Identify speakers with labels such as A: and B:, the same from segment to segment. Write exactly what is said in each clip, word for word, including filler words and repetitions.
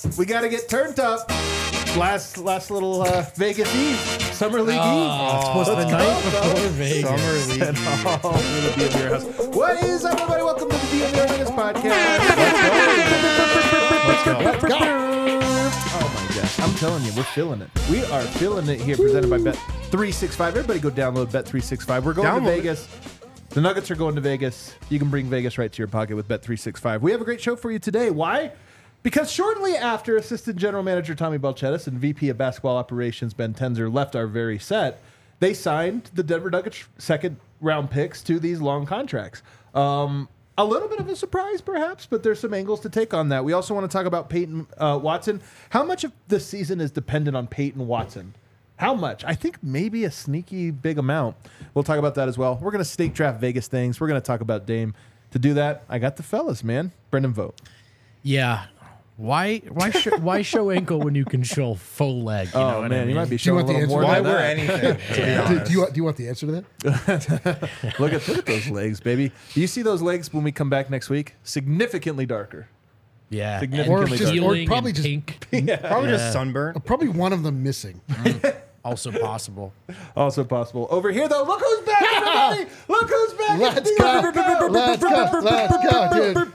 A: We got to get turned up. Last last little uh, Vegas Eve. Summer League
B: oh,
A: Eve.
B: It's supposed to be the night before Vegas.
C: Summer League Eve.
A: Oh, the D M V R house. What is up, everybody? Welcome to the D M V R Vegas podcast. Let's go. Let's go. Let's go. Oh, my gosh. I'm telling you, we're feeling it. We are feeling it here, presented by Bet three sixty-five. Everybody go download Bet three sixty-five. We're going
C: Download
A: to Vegas. The Nuggets are going to Vegas. You can bring Vegas right to your pocket with Bet three sixty-five. We have a great show for you today. Why? Because shortly after Assistant General Manager Tommy Balchetis and V P of Basketball Operations Ben Tenzer left our very set, they signed the Denver Nuggets second round picks to these long contracts. Um, a little bit of a surprise, perhaps, but there's some angles to take on that. We also want to talk about Peyton uh, Watson. How much of the season is dependent on Peyton Watson? How much? I think maybe a sneaky big amount. We'll talk about that as well. We're going to snake draft Vegas things. We're going to talk about Dame. To do that, I got the fellas, man. Brendan, vote.
B: Yeah. Why why sh- why show ankle when you can show faux leg? You
A: Oh,
B: know what
A: man,
B: I mean?
A: you might be
D: Do you
A: showing a
D: want the
A: little
D: answer
A: more
D: to
C: Why
A: than
C: wear
A: that.
C: anything, to be
D: Do,
C: honest?
D: do you want? Do you want the answer to that?
A: Look at look at those legs, baby. Do you see those legs when we come back next week? Significantly darker.
B: Yeah.
A: Significantly
B: And
A: darker.
D: just- or
B: peeling
D: probably
B: and
D: just-
B: pink.
C: Probably
B: Yeah.
C: just sunburn.
D: Probably one of them missing.
B: Also possible.
A: Also possible. Over here, though, look who's back, everybody! Look who's back!
D: Let's go! Let's go! Let's go, dude!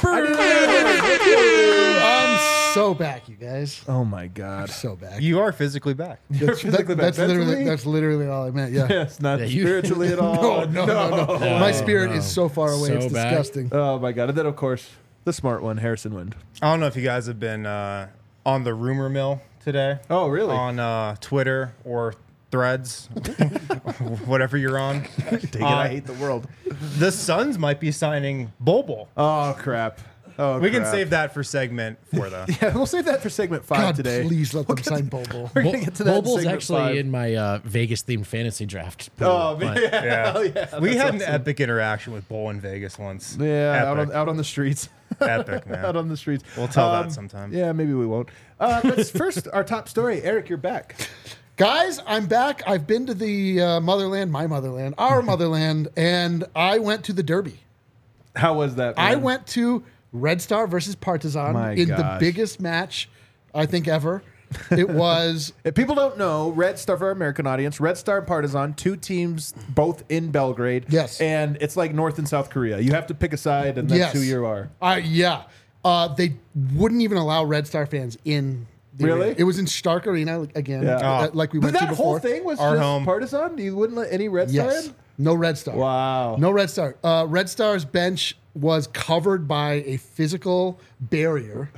D: I'm so back, you guys.
A: Oh my God!
D: So back.
C: You are physically back.
D: That's,
A: physically
D: that,
A: back.
D: that's literally
A: Mentally?
D: that's literally all I meant. Yeah.
A: Yes, not
B: Yeah, you-
A: spiritually at all.
D: No, no, no, no,
B: No,
D: My spirit
B: no.
D: is so far away.
B: So
D: it's
B: back.
D: disgusting.
A: Oh my God! And then, of course, the smart one, Harrison Wind.
C: I don't know if you guys have been uh, on the rumor mill today.
A: Oh, really?
C: On uh, Twitter or Threads, whatever you're on.
A: Take it.
C: Uh,
A: I hate the world.
C: The Suns might be signing Bol Bol.
A: Oh crap! Oh,
C: We can
A: crap.
C: save that for segment four, though.
A: Yeah, we'll save that for segment five
D: God,
A: today.
D: please let them sign Bobo.
A: We're gonna get to that. in
B: Boble's
A: segment
B: actually
A: five.
B: in my uh, Vegas themed fantasy draft. pool,
A: Oh
B: but-
A: man!
C: Yeah.
A: Hell yeah!
C: We
A: That's
C: had an
A: awesome.
C: epic interaction with Bol in Vegas once.
A: Yeah, out on,
C: Epic.
A: out on the streets.
C: Epic, man.
A: out on the streets.
C: We'll tell
A: Um,
C: that sometime.
A: Yeah, maybe we won't. Uh, let's first our top story. Eric, you're back.
D: Guys, I'm back. I've been to the uh, motherland, my motherland, our motherland, and I went to the Derby.
A: How was that?
D: I
A: man?
D: went to Red Star versus Partizan
A: My
D: in the
A: gosh.
D: biggest match, I think, ever. It was
A: If people don't know, Red Star, for our American audience, Red Star and Partizan, two teams both in Belgrade.
D: Yes.
A: And it's like North and South Korea. You have to pick a side, and that's
D: Yes.
A: who you are.
D: Uh, yeah. Uh, they wouldn't even allow Red Star fans in. The
A: Really?
D: arena. It was in Stark Arena again,
A: Yeah.
D: uh, like we
A: But
D: went to
A: that
D: before.
A: whole thing was
C: Our
A: just
C: home.
A: Partizan? You wouldn't let any Red Star
D: Yes.
A: in?
D: No Red Star.
A: Wow.
D: No Red Star. Uh, Red Star's bench was covered by a physical barrier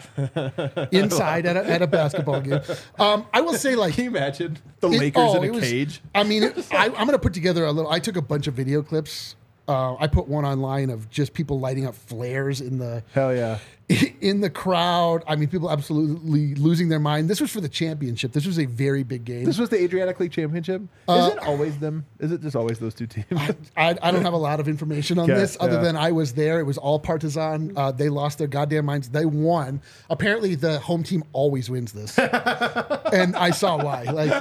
D: inside at a, at a basketball game. Um, I will say, like,
A: Can you imagine the
D: It-
A: Lakers
D: oh,
A: in
D: it
A: a
D: was-
A: cage?
D: I mean, it, I, I'm going to put together a little. I took a bunch of video clips. Uh, I put one online of just people lighting up flares in the
A: Hell yeah.
D: in the crowd. I mean, people absolutely losing their mind. This was for the championship. This was a very big game.
A: This was the Adriatic League Championship?
D: Uh,
A: Is it always them? Is it just always those two teams?
D: I, I don't have a lot of information on
A: Okay,
D: this other
A: yeah.
D: than I was there. It was all Partizan. Uh, they lost their goddamn minds. They won. Apparently, the home team always wins this, and I saw why. Like,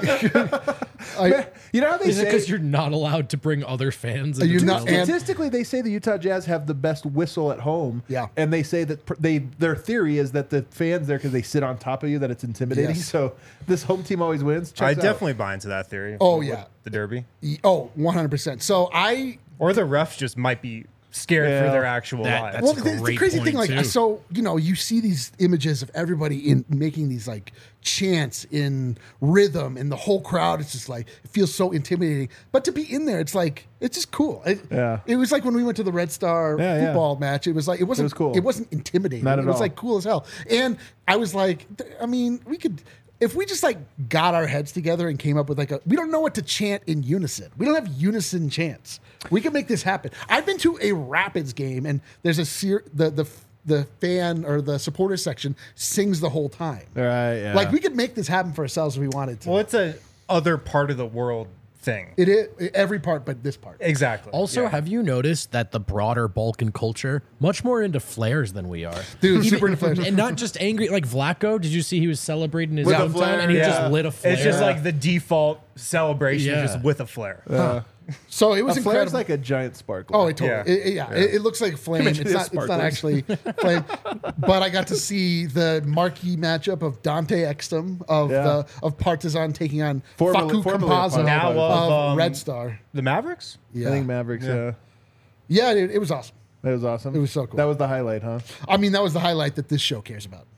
D: I,
A: You know how they
B: Is it
A: say...
B: because you're not allowed to bring other fans? into
D: You're
B: the
D: not-
B: building?
D: and-
A: Statistically, they say the Utah Jazz have the best whistle at home.
D: Yeah.
A: And they say that pr- they their theory is that the fans there, because they sit on top of you, that it's intimidating.
D: Yes.
A: So this home team always wins.
C: I
A: Checks out.
C: definitely buy into that theory.
D: Oh,
C: with
D: yeah.
C: The Derby.
D: oh, one hundred percent. So I
C: Or the refs just might be scared
A: Yeah.
C: for their actual
B: That-
C: lives.
B: that's
D: well,
B: a
D: the, the
B: great
D: crazy
B: point,
D: thing, like,
B: too.
D: so you know, you see these images of everybody in making these like chants in rhythm, and the whole crowd. It's just like it feels so intimidating. But to be in there, it's like it's just cool. It,
A: Yeah.
D: It was like when we went to the Red Star
A: Yeah, yeah.
D: football match. It was like it wasn't
A: was cool.
D: It wasn't intimidating.
A: Not at
D: it was
A: all.
D: like cool as hell. And I was like, th- I mean, we could. If we just like got our heads together and came up with like a, we don't know what to chant in unison. We don't have unison chants. We can make this happen. I've been to a Rapids game, and there's a ser- the the the fan or the supporter section sings the whole time.
A: Right, yeah.
D: Like we could make this happen for ourselves if we wanted to.
C: well, it's a other part of the world thing.
D: It is every part, but this part.
C: Exactly.
B: Also,
C: Yeah.
B: have you noticed that the broader Balkan culture much more into flares than we are?
D: Dude, super into flares.
B: And not just angry. Like Vlaco, did you see he was celebrating his
A: With a
B: hometown
A: flare,
B: and he
A: yeah.
B: just lit a flare?
C: It's just like the default celebration,
B: Yeah.
C: just with a flare.
A: Uh,
D: So it was
A: A flare's
D: incredible.
A: like a giant sparkle.
D: Oh, it totally.
C: Yeah.
D: It, it- yeah, It, it looks like flame.
A: Imagine
D: It's
A: it
D: not. It's not
A: sparkles.
D: actually flame. But I got to see the marquee matchup of Dante Exum of
A: Yeah.
D: the of Partizan taking on
A: Formerly-
D: Facu
A: formerly of
D: Campazzo
C: Now
D: of,
C: of, um,
D: Red Star.
C: The Mavericks?
D: Yeah,
A: I think Mavericks. Yeah.
D: yeah, it, it was awesome.
A: That was awesome.
D: It was so cool.
A: That was the highlight, huh?
D: I mean, that was the highlight that this show cares about.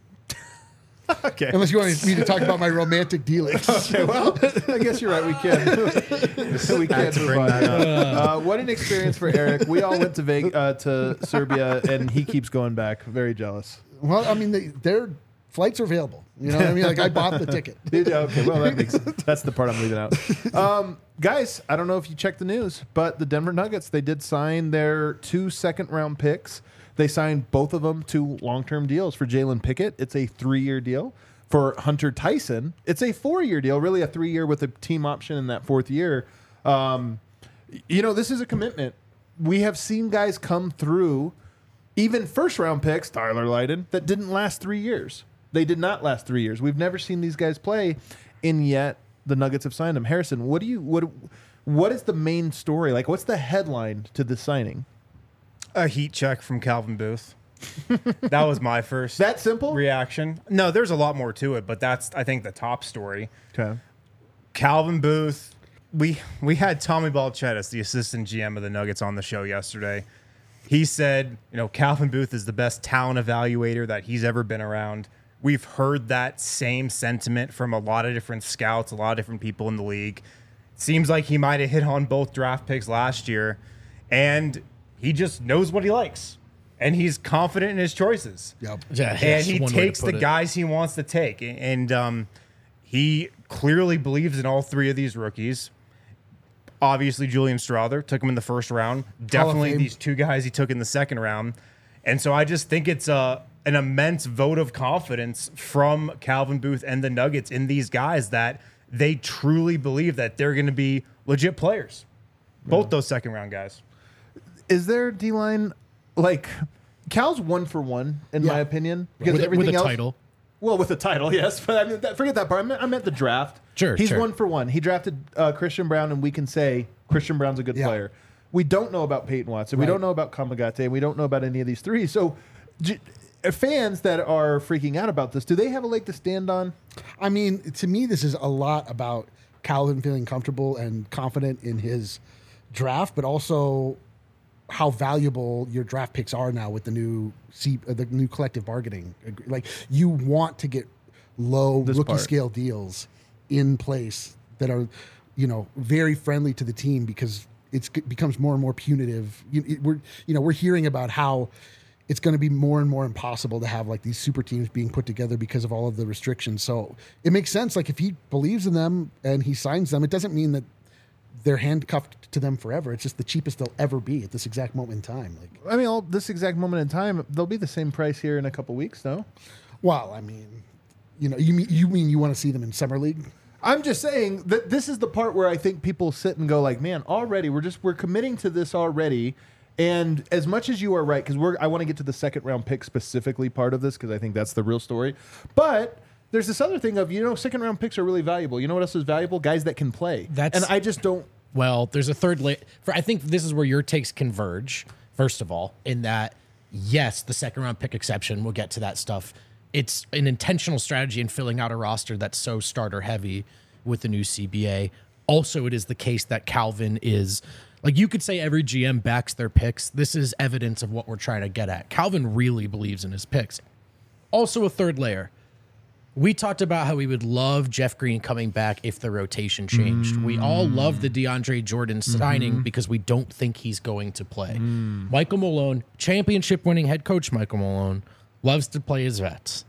A: Okay.
D: Unless you want me to talk about my romantic dealings.
A: Okay, well, I guess you're right. We can. we can move on. Uh, what an experience for Eric. We all went to Vegas, uh, to Serbia, and he keeps going back. Very jealous.
D: Well, I mean, they, their flights are available. You know what I mean? Like I bought the ticket.
A: Did- Okay, well, that makes that's the part I'm leaving out. Um, guys, I don't know if you checked the news, but the Denver Nuggets, they did sign their two second round picks. They signed both of them to long term deals. For Jalen Pickett, it's a three year deal. For Hunter Tyson, it's a four year deal, really a three year with a team option in that fourth year. Um, you know, this is a commitment. We have seen guys come through, even first round picks, Tyler Lydon, that didn't last three years. They did not last three years. We've never seen these guys play, and yet the Nuggets have signed them. Harrison, what do you what what is the main story? Like, what's the headline to this signing?
C: A heat check from Calvin Booth. That was my first
A: That simple?
C: reaction. No, there's a lot more to it, but that's, I think, the top story.
A: Okay.
C: Calvin Booth. We we had Tommy Balchettis, the assistant G M of the Nuggets, on the show yesterday. He said, you know, Calvin Booth is the best talent evaluator that he's ever been around. We've heard that same sentiment from a lot of different scouts, a lot of different people in the league. Seems like he might have hit on both draft picks last year, and he just knows what he likes, and he's confident in his choices.
D: Yep.
B: Yeah,
C: And
B: that's
C: he
B: one way to
C: takes
B: put
C: the
B: it.
C: guys he wants to take. And um, he clearly believes in all three of these rookies. Obviously, Julian Strawther took him in the first round. Definitely
D: Fame.
C: these two guys he took in the second round. And so I just think it's a, an immense vote of confidence from Calvin Booth and the Nuggets in these guys that they truly believe that they're going to be legit players. Both those second round guys.
A: Is there D line like Cal's one for one in
D: Yeah.
A: my opinion because
B: with, a-
A: everything
B: with a
A: else.
B: title.
A: Well, with the title, yes, but I mean, that, forget that part. I meant, I meant the draft.
B: Sure,
A: he's
B: sure.
A: one for one. He drafted uh, Christian Brown, and we can say Christian Brown's a good
D: Yeah.
A: player. We don't know about Peyton Watson. We
D: Right.
A: don't know about Kamagate. We don't know about any of these three. So, j- fans that are freaking out about this, do they have a leg to stand on?
D: I mean, to me, this is a lot about Calvin feeling comfortable and confident in his draft, but also how valuable your draft picks are now with the new C, uh, the new collective bargaining. ag- Like you want to get low
A: This
D: rookie
A: part.
D: scale deals in place that are, you know, very friendly to the team because it's it becomes more and more punitive. You, it, we're you know we're hearing about how it's going to be more and more impossible to have like these super teams being put together because of all of the restrictions. So it makes sense. Like if he believes in them and he signs them, it doesn't mean that they're handcuffed to them forever. It's just the cheapest they'll ever be at this exact moment in time. Like,
A: I mean, all, this exact moment in time, they'll be the same price here in a couple weeks, no?
D: well, I mean, you know, you mean you mean you want to see them in summer league?
A: I'm just saying that this is the part where I think people sit and go like, man, already we're just we're committing to this already. And as much as you are right, because we're I want to get to the second round pick specifically part of this because I think that's the real story. But there's this other thing of, you know, second round picks are really valuable. You know what else is valuable? Guys that can play.
B: That's-
A: and I just don't.
B: Well, there's a third la- for I think this is where your takes converge, first of all, in that yes, the second round pick exception, we'll get to that stuff. It's an intentional strategy in filling out a roster that's so starter heavy with the new C B A. Also, it is the case that Calvin is like you could say every G M backs their picks. This is evidence of what we're trying to get at. Calvin really believes in his picks. Also, a third layer. We talked about how we would love Jeff Green coming back if the rotation changed. We all love the DeAndre Jordan signing because we don't think he's going to play. Michael Malone, championship winning head coach Michael Malone, loves to play his vets.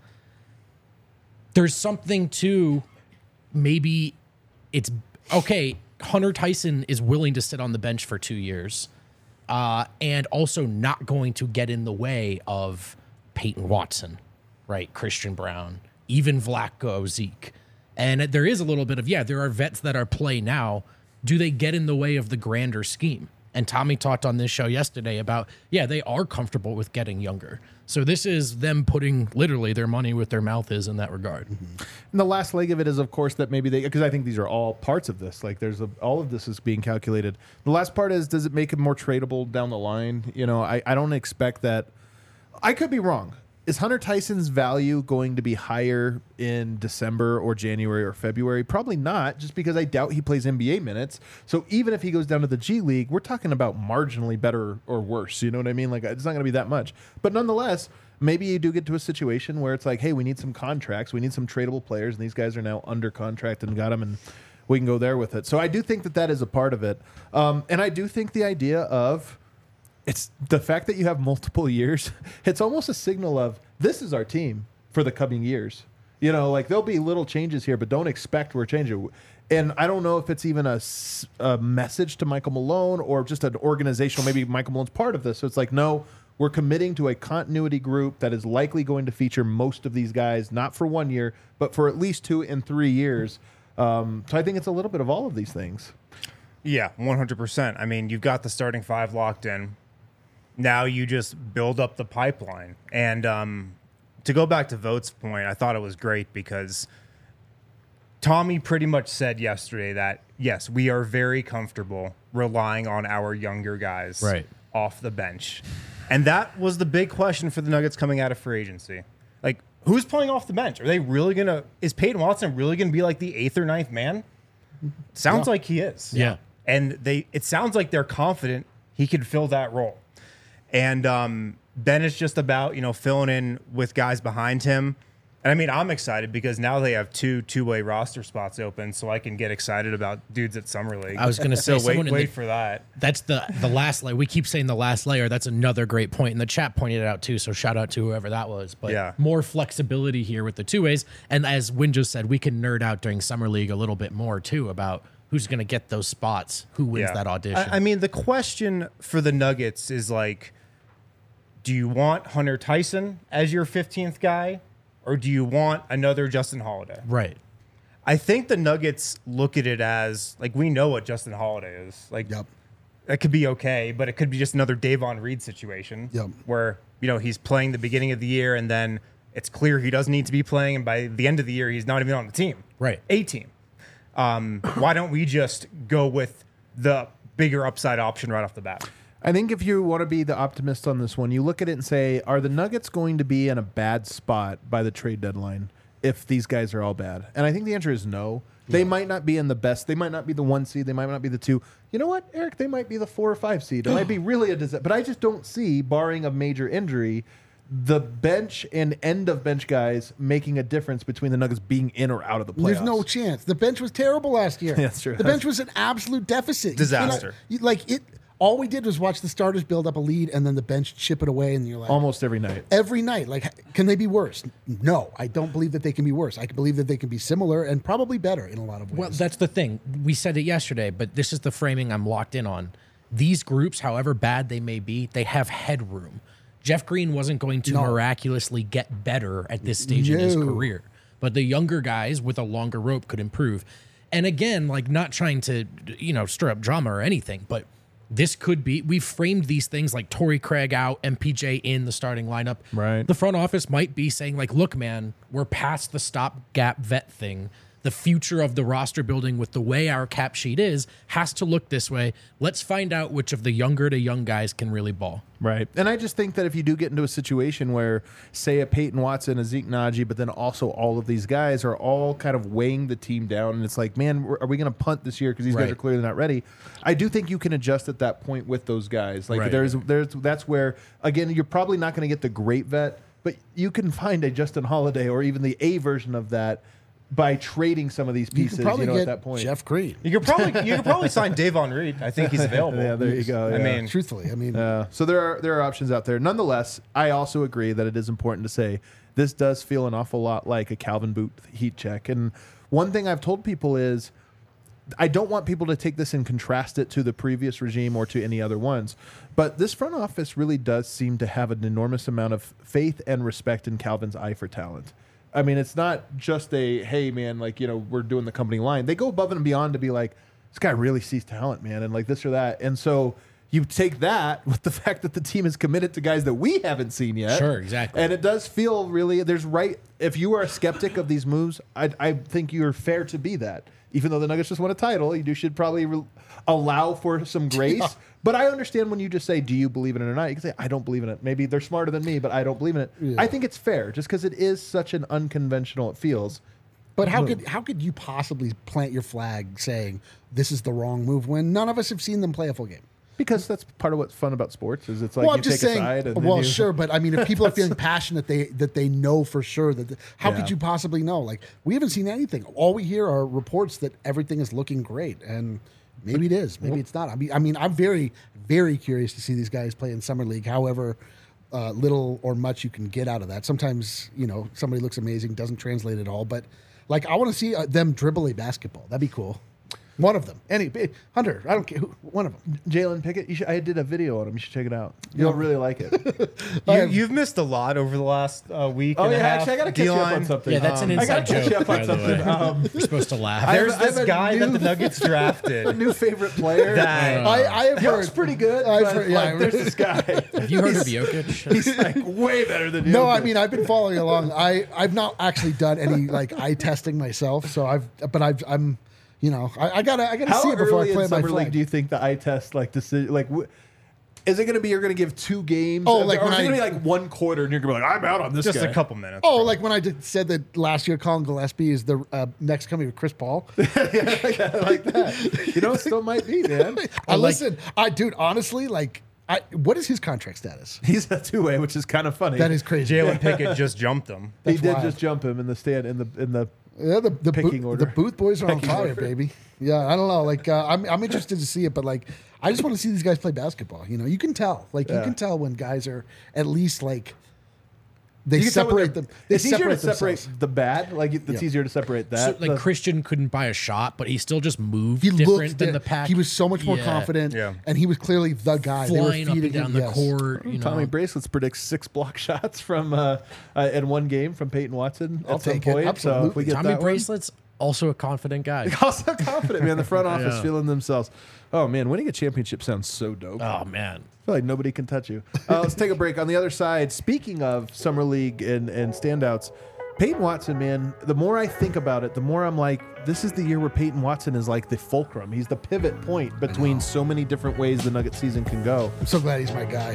B: There's something to maybe it's okay. Hunter Tyson is willing to sit on the bench for two years uh, and also not going to get in the way of Peyton Watson, right? Christian Brown, even Vlatko, Zeke. And there is a little bit of, yeah, there are vets that are play now. Do they get in the way of the grander scheme? And Tommy talked on this show yesterday about, yeah, they are comfortable with getting younger. So this is them putting literally their money where their mouth is in that regard.
A: Mm-hmm. And the last leg of it is, of course, that maybe they, because I think these are all parts of this. Like there's a, all of this is being calculated. The last part is, does it make it more tradable down the line? You know, I, I don't expect that. I could be wrong. Is Hunter Tyson's value going to be higher in December or January or February? Probably not, just because I doubt he plays N B A minutes. So even if he goes down to the G League, we're talking about marginally better or worse. You know what I mean? Like it's not going to be that much. But nonetheless, maybe you do get to a situation where it's like, hey, we need some contracts. We need some tradable players. And these guys are now under contract and got them, and we can go there with it. So I do think that that is a part of it. Um, and I do think the idea of, it's the fact that you have multiple years. It's almost a signal of this is our team for the coming years. You know, like there'll be little changes here, but don't expect we're changing. And I don't know if it's even a, s- a message to Michael Malone or just an organizational, maybe Michael Malone's part of this. So it's like, no, we're committing to a continuity group that is likely going to feature most of these guys, not for one year, but for at least two and three years. Um, so I think it's a little bit of all of these things.
C: Yeah, one hundred percent. I mean, you've got the starting five locked in. Now you just build up the pipeline. And um, to go back to Vogt's point, I thought it was great because Tommy pretty much said yesterday that, yes, we are very comfortable relying on our younger guys
B: Right.
C: off the bench. And that was the big question for the Nuggets coming out of free agency. Like, who's playing off the bench? Are they really going to – is Peyton Watson really going to be like the eighth or ninth man? Sounds
D: Yeah.
C: like he is.
B: Yeah.
C: And they it sounds like they're confident he could fill that role. And um, then it's just about, you know, filling in with guys behind him. And I mean, I'm excited because now they have two two-way roster spots open, so I can get excited about dudes at Summer League.
B: I was going to say,
C: so wait,
B: someone in
C: wait
B: the-
C: for that.
B: That's the the last layer. We keep saying the last layer. That's another great point. And the chat pointed it out too. So shout out to whoever that was. But
C: Yeah.
B: more flexibility here with the two ways. And as Win just said, we can nerd out during Summer League a little bit more too about who's going to get those spots, who wins
C: Yeah.
B: that audition.
C: I, I mean, the question for the Nuggets is like, do you want Hunter Tyson as your fifteenth guy, or do you want another Justin Holiday?
B: right.
C: I think the Nuggets look at it as, like, we know what Justin Holiday is. Like,
D: Yep.
C: that could be okay, but it could be just another Davon Reed situation
D: Yep.
C: where, you know, he's playing the beginning of the year and then it's clear he doesn't need to be playing, and by the end of the year, he's not even on the team.
B: Right.
C: A team. Um, why don't we just go with the bigger upside option right off the bat?
A: I think if you want to be the optimist on this one, you look at it and say, are the Nuggets going to be in a bad spot by the trade deadline if these guys are all bad? And I think the answer is no. They might not be in the best. They might not be the one seed. They might not be the two. You know what, Eric? They might be the four or five seed. It might be really a disaster. But I just don't see, barring a major injury, the bench and end of bench guys making a difference between the Nuggets being in or out of the playoffs.
D: There's no chance. The bench was terrible last year.
A: Yeah, that's true.
D: The bench was an absolute deficit. You
C: Disaster.
D: cannot- you- like it. All we did was watch the starters build up a lead and then the bench chip it away, and you're like,
A: Almost every night.
D: every night. Like, can they be worse? No, I don't believe that they can be worse. I can believe that they can be similar and probably better in a lot of ways.
B: Well, that's the thing. We said it yesterday, but this is the framing I'm locked in on. These groups, however bad they may be, they have headroom. Jeff Green wasn't going to
D: No.
B: miraculously get better at this stage in his
D: No.
B: career, but the younger guys with a longer rope could improve. And again, like not trying to, you know, stir up drama or anything, but this could be, we've framed these things like Torrey Craig out, M P J in the starting lineup.
A: Right.
B: The front office might be saying like, look, man, we're past the stopgap vet thing. The future of the roster building with the way our cap sheet is has to look this way. Let's find out which of the younger to young guys can really ball.
A: Right. And I just think that if you do get into a situation where, say, a Peyton Watson, a Zeke Naji, but then also all of these guys are all kind of weighing the team down, and it's like, man, are we going to punt this year because these guys
B: Right.
A: are clearly not ready? I do think you can adjust at that point with those guys. Like,
B: Right.
A: there's, there's, that's where, again, you're probably not going to get the great vet, but you can find a Justin Holiday or even the A version of that by trading some of these
D: you
A: pieces,
D: could probably
A: you know,
D: get
A: at that point.
D: Jeff Green.
C: You could probably you could probably sign Davon Reed. I think he's available.
A: Yeah, there you go.
C: I
A: yeah.
C: mean,
D: Truthfully, I mean,
A: Uh, so there are there are options out there. Nonetheless, I also agree that it is important to say this does feel an awful lot like a Calvin Booth heat check. And one thing I've told people is I don't want people to take this and contrast it to the previous regime or to any other ones. But this front office really does seem to have an enormous amount of faith and respect in Calvin's eye for talent. I mean, it's not just a, hey, man, like, you know, we're doing the company line. They go above and beyond to be like, this guy really sees talent, man, and like this or that. And so You take that with the fact that the team is committed to guys that we haven't seen yet.
B: Sure, exactly.
A: And it does feel really, there's right, if you are a skeptic of these moves, I, I think you're fair to be that. Even though the Nuggets just won a title, you do, should probably re- allow for some grace.
D: Yeah.
A: But I understand when you just say, do you believe in it or not? You can say, I don't believe in it. Maybe they're smarter than me, but I don't believe in it.
D: Yeah.
A: I think it's fair just because it is such an unconventional, it feels.
D: But how could how could you possibly plant your flag saying this is the wrong move when none of us have seen them play a full game?
A: Because that's part of what's fun about sports is it's like
D: Well,
A: you
D: I'm just
A: take
D: saying.
A: a side. And then
D: Well,
A: you,
D: sure, but I mean, if people are feeling passionate, they that they know for sure that. The, how
A: Yeah.
D: could you possibly know? Like, we haven't seen anything. All we hear are reports that everything is looking great, and maybe it is, maybe it's not. I mean, I mean, I'm very, very curious to see these guys play in summer league. However, uh, little or much you can get out of that. Sometimes, you know, somebody looks amazing, doesn't translate at all. But like, I want to see uh, them dribble a basketball. That'd be cool. One of them, any Hunter, I don't care. Who, one of them.
A: Jalen Pickett, you should, I did a video on him. You should check it out. You'll really like it.
C: You, you've missed a lot over the last uh, week.
A: Oh
C: and
A: yeah,
C: a half.
A: actually, I got to catch you up on
C: D-line.
A: something.
B: Yeah, that's an
A: Um, I
B: inside
A: gotta catch
B: joke,
A: you up
B: by
A: on
B: the way.
A: something. Um,
B: We're supposed to laugh.
A: I have-
C: There's
A: I have
C: this
A: a
C: guy that
A: new-
C: the Nuggets drafted.
A: new favorite player.
C: That-
D: I, I have
A: He looks
D: heard.
A: pretty good.
D: I've
A: but,
D: heard- yeah,
A: like,
D: I
A: there's
D: really-
A: this guy.
B: Have you heard of Jokic?
A: He's like way better than you.
D: No, I mean I've been following along. I I've not actually done any like eye testing myself, so I've but I've I'm you know I, I gotta I gotta
A: how
D: see it before I
A: early
D: play
A: in
D: my
A: summer
D: flag.
A: league do you think the eye test like decision like? W- is it going to be you're going to give two games?
D: Oh, like
A: or
D: when
A: is it
D: I-
A: going to be like one quarter and you're going to be like, I'm out on this
C: Just
A: guy.
C: a couple minutes.
D: Oh, like when I did, said that last year, Colin Gillespie is the uh, next coming of Chris Paul.
A: like that. You know, it still might be, man.
D: I
B: like-
D: listen, I dude, honestly, like, I what is his contract status?
A: He's a two way, which is kind of funny.
D: That is crazy.
C: Jalen Pickett just jumped him.
A: he
D: that's
A: did
D: wild.
A: just jump him in the stand in the in the.
D: Yeah, the the,
A: Picking
D: boot,
A: order.
D: the Booth boys are on
A: Pecking
D: fire,
A: order.
D: baby. Yeah, I don't know. Like, uh, I'm I'm interested to see it, but like, I just want to see these guys play basketball. You know, you can tell. Like, you
A: Yeah.
D: can tell when guys are at least like they
A: You can tell when
D: separate
A: they're-
D: them. They
A: It's easier to
D: separate
A: separate
D: themselves.
A: the bad. Like it's
D: Yeah.
A: easier to separate
B: So,
A: that.
B: like
A: The-
B: Christian couldn't buy a shot, but he still just moved
D: He
B: different
D: looked
B: than
D: di-
B: the pack.
D: He was so much more
B: Yeah.
D: confident,
C: Yeah.
D: and he was clearly the guy. They were
B: flying up and
D: feeding
B: down
D: him,
B: the
D: yes.
B: court. You know,
A: Tommy Bracelets predicts six block shots from uh, uh, in one game from Peyton Watson
D: I'll
A: at some
D: take it.
A: point. So if
D: Absolutely.
A: we get
B: Tommy
A: that one-
B: Bracelets, also a confident guy.
A: also confident, man. The front office
B: Yeah.
A: feeling themselves. Oh man, winning a championship sounds so dope.
B: Oh man,
A: I feel like nobody can touch you. Uh, let's take a break. On the other side, speaking of summer league and, and standouts, Peyton Watson, man, the more I think about it, the more I'm like, this is the year where Peyton Watson is like the fulcrum. He's the pivot point between so many different ways the Nugget season can go.
D: I'm so glad he's my guy.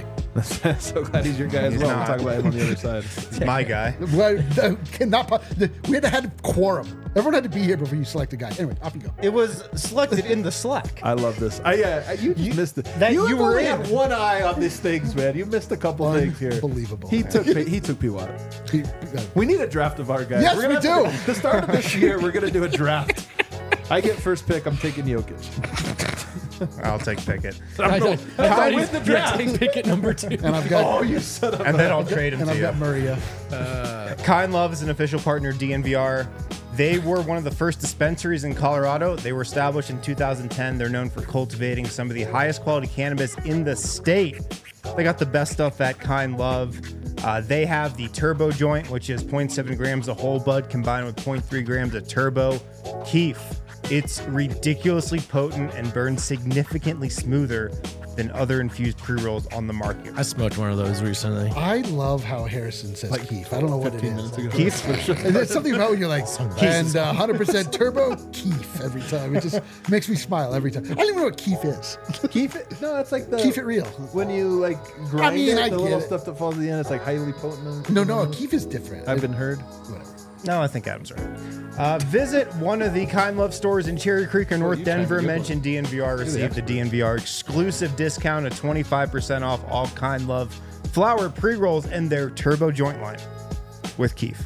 A: So glad he's your guy as
C: He's
A: well. We'll
C: not.
A: talk about him on the other side.
C: It's my guy.
D: Well, uh, cannot po- the- we had to have quorum. Everyone had to be here before you select a guy. Anyway, off you go.
C: It was selected in the Slack.
A: I love this. I, yeah, you just missed it.
C: that
A: you
C: you were
A: only
C: in.
A: had one eye on these things, man. You missed a couple things here.
D: Unbelievable,
A: He
D: man.
A: took he took P. Watt.
D: He- uh,
A: We need a draft of our guys.
D: Yes,
A: We're gonna
D: we
A: have
D: do.
A: To, the start of this year, we're gonna do a draft. I get first pick. I'm taking Jokic.
C: I'll take Pickett.
B: I, I, I thought
A: with
B: he
A: the draft.
B: take Pickett number two.
D: and I've got
A: Oh, you son of
C: And then I'll trade him
D: and
C: to
D: I've
C: you.
D: got Murray. Yeah.
C: Kind Love is an official partner of D N V R. They were one of the first dispensaries in Colorado. They were established in two thousand ten. They're known for cultivating some of the highest quality cannabis in the state. They got the best stuff at Kind Love. Uh, they have the Turbo joint, which is zero point seven grams of whole bud combined with zero point three grams of Turbo Keef. It's ridiculously potent and burns significantly smoother than other infused pre-rolls on the market.
B: I smoked one of those recently.
D: I love how Harrison says Keef. I don't know what it
A: fifteen
D: is.
A: minutes ago.
C: Keef,
D: And there's something about when you're like, and uh, one hundred percent turbo Keef every time. It just makes me smile every time. I don't even know what Keef is.
A: Keep it. No, it's like the
D: Keep it real.
A: when you like grind
D: mean,
A: it.
D: I
A: the
D: get
A: little
D: it.
A: stuff that falls at the end. It's like highly potent.
D: No, no, Keef is different.
A: I've been heard.
D: Whatever.
C: No, I think Adam's right. Uh, visit one of the Kind Love stores in Cherry Creek or North
A: you tried
C: Denver.
A: to get
C: Mention D N V R. Receive the D N V R exclusive discount of twenty-five percent off all Kind Love flower pre-rolls and their Turbo joint line with Keef.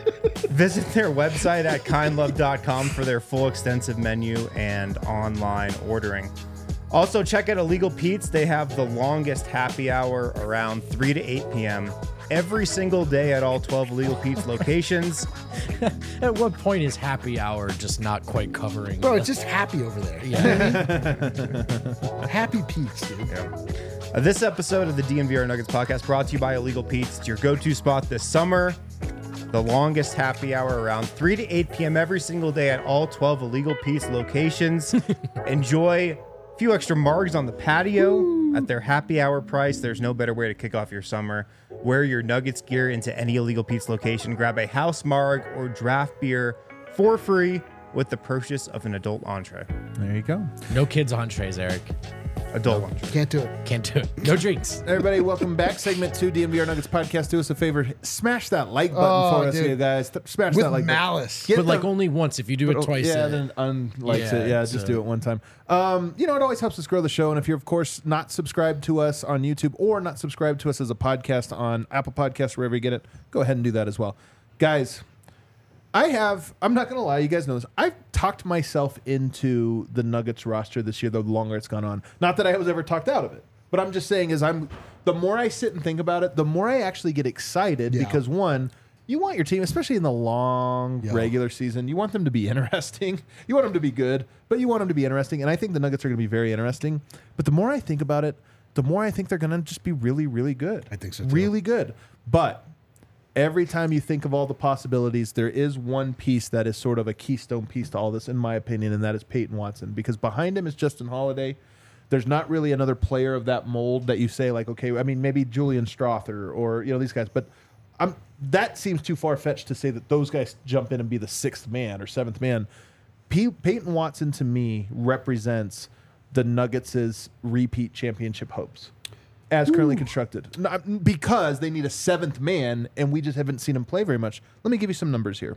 C: Visit their website at kind love dot com for their full extensive menu and online ordering. Also, check out Illegal Pete's. They have the longest happy hour around three to eight p.m. every single day at all twelve Illegal Pete's locations.
B: At what point is happy hour just not quite covering?
D: Bro,
B: the-
D: it's just happy over there.
B: yeah.
D: Happy Pete's, dude.
C: Uh, this episode of the D N V R Nuggets podcast brought to you by Illegal Pete's. It's your go-to spot this summer. The longest happy hour around three to eight p.m. every single day at all twelve Illegal Pete's locations. Enjoy a few extra margs on the patio. At their happy hour price, there's no better way to kick off your summer. Wear your Nuggets gear into any Illegal Pete's location. Grab a house marg or draft beer for free with the purchase of an adult entree.
A: There you go.
B: No kids entrees, Eric.
C: Adult entree.
D: Can't do it.
B: Can't do it. No drinks.
A: Everybody, welcome back. Segment two, D N V R Nuggets podcast. Do us a favor, smash that like button
D: Oh,
A: for us,
D: dude.
A: you guys. Th- Smash
D: With
A: that like
D: malice.
A: button. Get
B: But like
A: the-
B: only once. If you do it twice,
A: yeah,
B: uh,
A: then unlikes
B: yeah,
A: it. Yeah,
B: it's,
A: just
B: uh,
A: do it one time. Um, you know, it always helps us grow the show. And if you're, of course, not subscribed to us on YouTube or not subscribed to us as a podcast on Apple Podcasts, wherever you get it, go ahead and do that as well. Guys, I have, I'm not going to lie, you guys know this. I've talked myself into the Nuggets roster this year, the longer it's gone on. Not that I was ever talked out of it, but I'm just saying, is I'm, the more I sit and think about it, the more I actually get excited
D: Yeah.
A: because, one, you want your team, especially in the long
D: Yeah.
A: regular season, you want them to be interesting. You want them to be good, but you want them to be interesting. And I think the Nuggets are going to be very interesting. But the more I think about it, the more I think they're going to just be really, really good.
D: I think so, too.
A: Really good. But every time you think of all the possibilities, there is one piece that is sort of a keystone piece to all this, in my opinion, and that is Peyton Watson. Because behind him is Justin Holiday. There's not really another player of that mold that you say, like, okay, I mean, maybe Julian Strother or, you know, these guys. But I'm, that seems too far-fetched to say that those guys jump in and be the sixth man or seventh man. P- Peyton Watson, to me, represents the Nuggets' repeat championship hopes as currently constructed. Not, because they need a seventh man, and we just haven't seen him play very much. Let me give you some numbers here.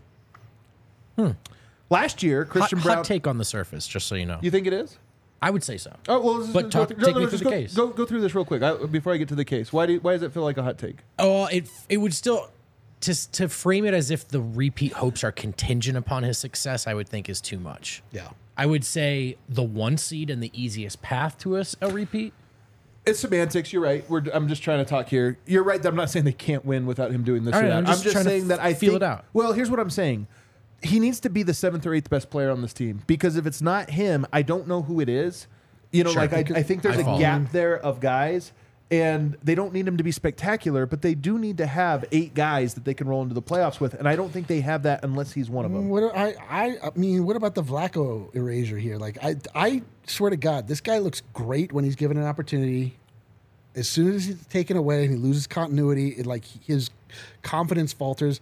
A: Last year,
B: hot,
A: Christian Brown...
B: hot take on the surface, just so you know.
A: You think it is?
B: I would say so.
A: Oh, well, let's
B: But
A: just
B: talk-
A: go,
B: take me through
A: just
B: the
A: go,
B: case.
A: Go, go through this real quick I, before I get to the case. Why do you, why does it feel like a hot take?
B: Oh, it it would still to to frame it as if the repeat hopes are contingent upon his success. I would think is too much.
D: Yeah.
B: I would say the one seed and the easiest path to us a repeat.
A: It's semantics. You're right. We're, I'm just trying to talk here. You're right. That I'm not saying they can't win without him doing this
B: All
A: or
B: right,
A: that.
B: I'm
A: I'm
B: just
A: just,
B: trying to
A: saying that I
B: feel
A: think,
B: it out.
A: Well, here's what I'm saying. He needs to be the seventh or eighth best player on this team because if it's not him, I don't know who it is. You know,
B: Sure.
A: like I, I think there's
B: I
A: a
B: follow.
A: gap there of guys, and they don't need him to be spectacular, but they do need to have eight guys that they can roll into the playoffs with, and I don't think they have that unless he's one of them.
D: What I, I I mean, what about the Vlaco erasure here? Like, I I swear to God, this guy looks great when he's given an opportunity. As soon as he's taken away and he loses continuity, it, like his confidence falters.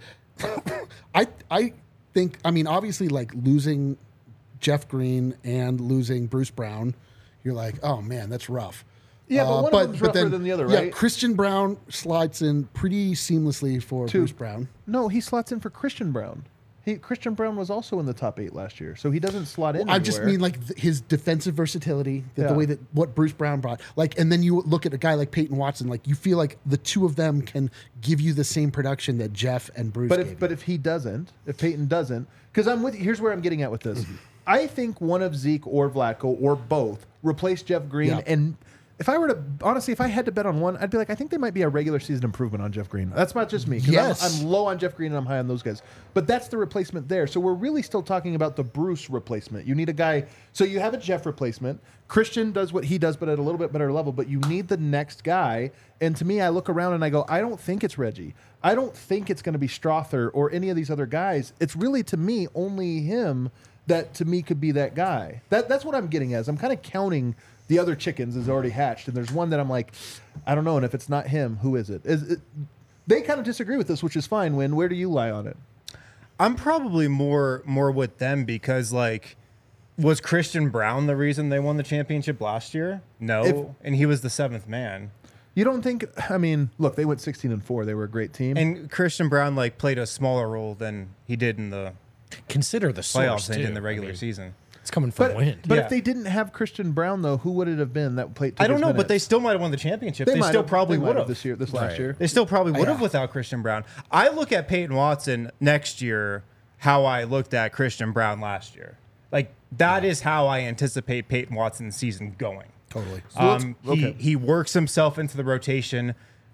D: I I think I mean obviously like losing Jeff Green and losing Bruce Brown, you're like, oh man, that's rough.
A: Yeah, but
D: Uh,
A: one of them's rougher than the other,
D: Yeah,
A: right?
D: Christian Brown slides in pretty seamlessly for
A: Two.
D: Bruce Brown.
A: No, he slots in for Christian Brown. He Christian Brown was also in the top eight last year, so he doesn't slot in.
D: I just
A: anywhere.
D: mean like th- his defensive versatility, the,
A: Yeah.
D: the way that what Bruce Brown brought. Like, and then you look at a guy like Peyton Watson. Like, you feel like the two of them can give you the same production that Jeff and Bruce.
A: But
D: gave
A: if
D: you.
A: but if he doesn't, if Peyton doesn't, because I'm with you. Here's where I'm getting at with this. I think one of Zeke or Vlaco or both replace Jeff Green.
D: Yeah.
A: And if I were to honestly, if I had to bet on one, I'd be like, I think they might be a regular season improvement on Jeff Green. That's not just me. 'Cause
D: Yes.
A: I'm, I'm low on Jeff Green and I'm high on those guys. But that's the replacement there. So we're really still talking about the Bruce replacement. You need a guy. So you have a Jeff replacement. Christian does what he does, but at a little bit better level. But you need the next guy. And to me, I look around and I go, I don't think it's Reggie. I don't think it's going to be Strother or any of these other guys. It's really, to me, only him that to me could be that guy. That that's what I'm getting at. Is I'm kind of counting the other chickens as already hatched, and there's one that I'm like, I don't know. And if it's not him, who is it? Is it they kind of disagree with this, which is fine. Win. Where do you lie on it?
C: I'm probably more more with them because like was Christian Brown the reason they won the championship last year? No,
A: If-
C: and he was the seventh man.
A: You don't think? I mean, look, they went sixteen and four. They were a great team.
C: And Christian Brown like played a smaller role than he did in the
B: Consider the
C: playoffs
B: source
C: and
B: too.
C: in the regular
B: I mean,
C: season.
B: It's coming from
A: but
B: wind.
A: but
C: Yeah.
A: if they didn't have Christian Brown, though, who would it have been that played?
C: I don't know, but they still might have won the championship. They,
A: might
C: still
A: have-
C: probably
A: they might
C: would
A: have
C: have
A: this year, this last
B: Right.
A: year.
C: They still probably would have
D: Yeah.
C: without Christian Brown. I look at Peyton Watson next year how I looked at Christian Brown last year. Like that is how I anticipate Peyton Watson's season going.
D: totally.
C: Um, he,
A: okay.
C: he works himself into the rotation.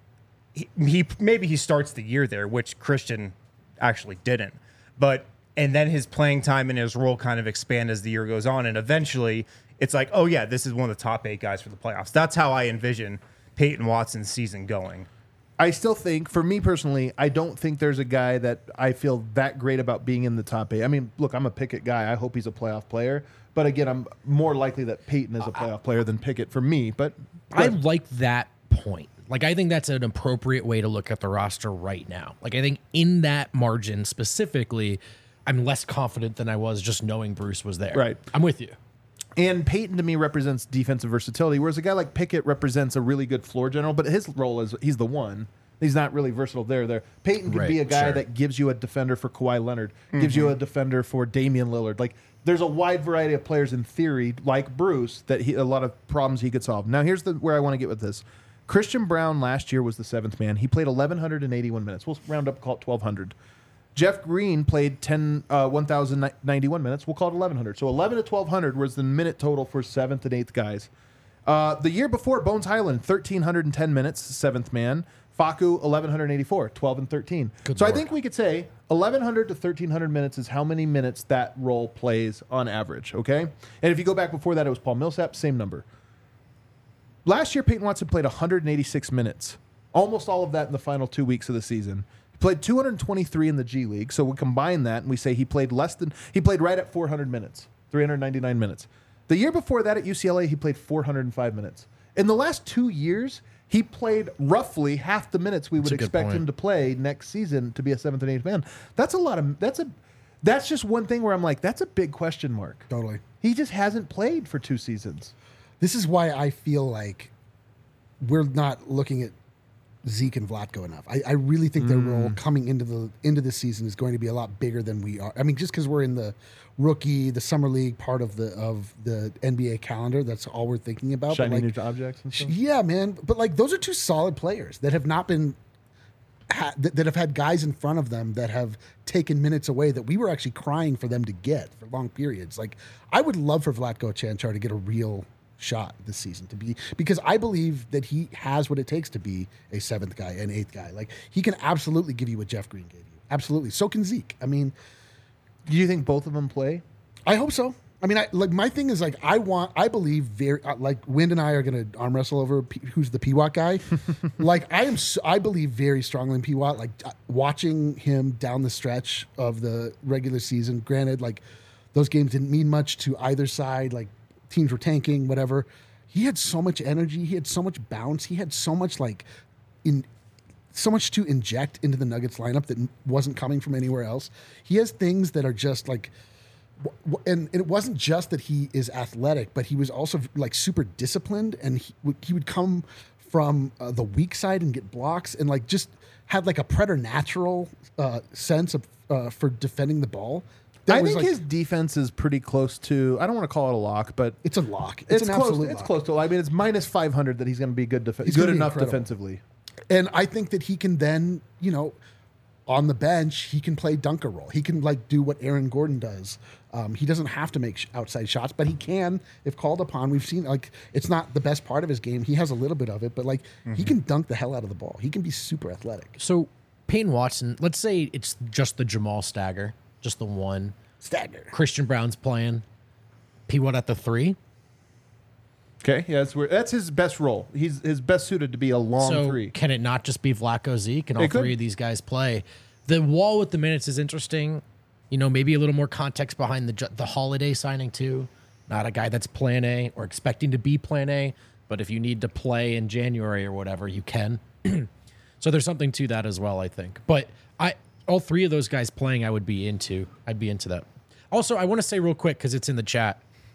C: He, he maybe he starts the year there, which Christian actually didn't. But and then his playing time and his role kind of expand as the year goes on, and eventually it's like, oh yeah, this is one of the top eight guys for the playoffs. That's how I envision Peyton Watson's season going.
A: I still think, for me personally, I don't think there's a guy that I feel that great about being in the top eight. I mean, look, I'm a Pickett guy. I hope he's a playoff player. But again, I'm more likely that Peyton is a playoff player than Pickett for me. But
B: I like that point. Like, I think that's an appropriate way to look at the roster right now. Like, I think in that margin specifically, I'm less confident than I was just knowing Bruce was there.
A: Right.
B: I'm with you.
A: And Peyton to me represents defensive versatility, whereas a guy like Pickett represents a really good floor general, but his role is he's the one. He's not really versatile there. There, Peyton can
B: Right,
A: be a guy
B: sure.
A: that gives you a defender for Kawhi Leonard, gives you a defender for Damian Lillard. Like, there's a wide variety of players in theory, like Bruce, that he, a lot of problems he could solve. Now, here's the where I want to get with this. Christian Brown last year was the seventh man. He played eleven eighty-one minutes. We'll round up, call it twelve hundred. Jeff Green played ten, uh, one thousand ninety-one minutes. We'll call it eleven hundred. So eleven to twelve hundred was the minute total for seventh and eighth guys. Uh, the year before, Bones Highland, thirteen ten minutes, seventh man. Facu, eleven eighty-four, twelve and thirteen.
B: Good
A: so
B: Lord.
A: I think we could say eleven hundred to thirteen hundred minutes is how many minutes that role plays on average, okay? And if you go back before that, it was Paul Millsap, same number. Last year, Peyton Watson played one hundred eighty-six minutes, almost all of that in the final two weeks of the season. He played two hundred twenty-three in the G League, so we combine that and we say he played less than, he played right at four hundred minutes, three hundred ninety-nine minutes. The year before that at U C L A, he played four hundred five minutes. In the last two years, he played roughly half the minutes we would
B: That's a good
A: expect
B: point.
A: him to play next season to be a seventh and eighth man. That's a lot of, that's a, that's just one thing where I'm like, that's a big question mark.
D: Totally.
A: He just hasn't played for two seasons.
D: This is why I feel like we're not looking at Zeke and Vlatko enough. I, I really think their role coming into the into this season is going to be a lot bigger than we are. I mean, just because we're in the rookie, the summer league part of the of the N B A calendar, that's all we're thinking about. But
A: Shiny
D: like,
A: new objects and stuff.
D: yeah, man. But like, those are two solid players that have not been ha- that, that have had guys in front of them that have taken minutes away that we were actually crying for them to get for long periods. Like, I would love for Vlatko Chanchar to get a real shot this season to be, because I believe that he has what it takes to be a seventh guy, an eighth guy. Like, he can absolutely give you what Jeff Green gave you. Absolutely. So can Zeke. I mean,
A: Do you think both of them play?
D: I hope so. I mean, I, like my thing is like I want, I believe very uh, like Wind and I are going to arm wrestle over P, who's the P W A T guy. Like I am, so, I believe very strongly in P W A T. Like uh, watching him down the stretch of the regular season. Granted, like those games didn't mean much to either side. Like teams were tanking, whatever. He had so much energy. He had so much bounce. He had so much like in. so much to inject into the Nuggets lineup that wasn't coming from anywhere else. He has things that are just like, w- w- and it wasn't just that he is athletic, but he was also like super disciplined, and he would, he would come from uh, the weak side and get blocks, and like just had like a preternatural uh, sense of uh, for defending the ball. That
A: I
D: was,
A: think
D: like-
A: his defense is pretty close to, I don't want to call it a lock, but
D: it's a lock. It's,
A: it's,
D: an
A: close.
D: absolute
A: It's
D: lock.
A: close to, I mean, it's minus five hundred that he's going to be good, def-
D: He's
A: good
D: gonna be
A: enough
D: incredible.
A: defensively.
D: And I think that he can then, you know, on the bench, he can play dunker role. He can like do what Aaron Gordon does. Um, he doesn't have to make sh- outside shots, but he can if called upon. We've seen like it's not the best part of his game. He has a little bit of it, but like he can dunk the hell out of the ball. He can be super athletic.
B: So Peyton Watson, let's say it's just the Jamal stagger, just the one.
D: Stagger.
B: Christian Brown's playing. P W A T at the three.
A: Okay, yeah, that's where that's his best role. He's his best suited to be a long
B: So
A: three.
B: can it not just be Vlatko, Zeke, and all
A: It could.
B: three of these guys play? The wall with the minutes is interesting. You know, maybe a little more context behind the ju- the Holiday signing too. Not a guy that's Plan A or expecting to be Plan A, but if you need to play in January or whatever, you can. So there's something to that as well, I think. But I all three of those guys playing, I would be into. I'd be into that. Also, I want to say real quick because it's in the chat.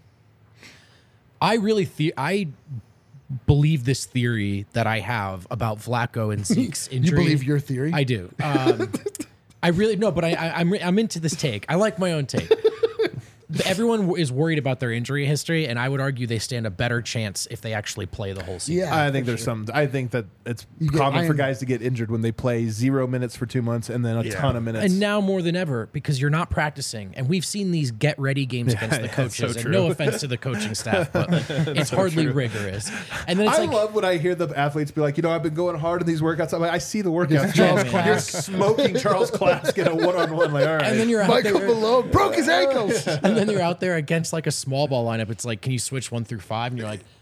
B: I really the- I believe this theory that I have about Vlatko and Zeke's
D: You
B: injury.
D: believe your theory?
B: I do. Um, I really no, but I, I, I'm I'm into this take. I like my own take. Everyone is worried about their injury history, and I would argue they stand a better chance if they actually play the whole season.
D: Yeah,
A: I think
D: for
A: there's
D: sure.
A: some. I think that it's
D: You get
A: common for
D: iron-
A: guys to get injured when they play zero minutes for two months and then a
C: Yeah.
A: ton of minutes.
B: And now more than ever, because you're not practicing, and we've seen these get ready games against the
A: yeah, that's
B: coaches.
A: so
B: and
A: true.
B: no offense to the coaching staff, but like, it's hardly rigorous. And then it's
A: I
B: like,
A: love when I hear the athletes be like, you know, I've been going hard in these workouts. I'm like, I see the workouts.
B: Charles
A: You're
B: Clask.
A: smoking Charles Clask in a one-on-one. Like, all right.
B: and then you're out
D: Michael
B: there,
D: Malone broke his ankles.
B: and then you're out there against like a small ball lineup. It's like, can you switch one through five? And you're like,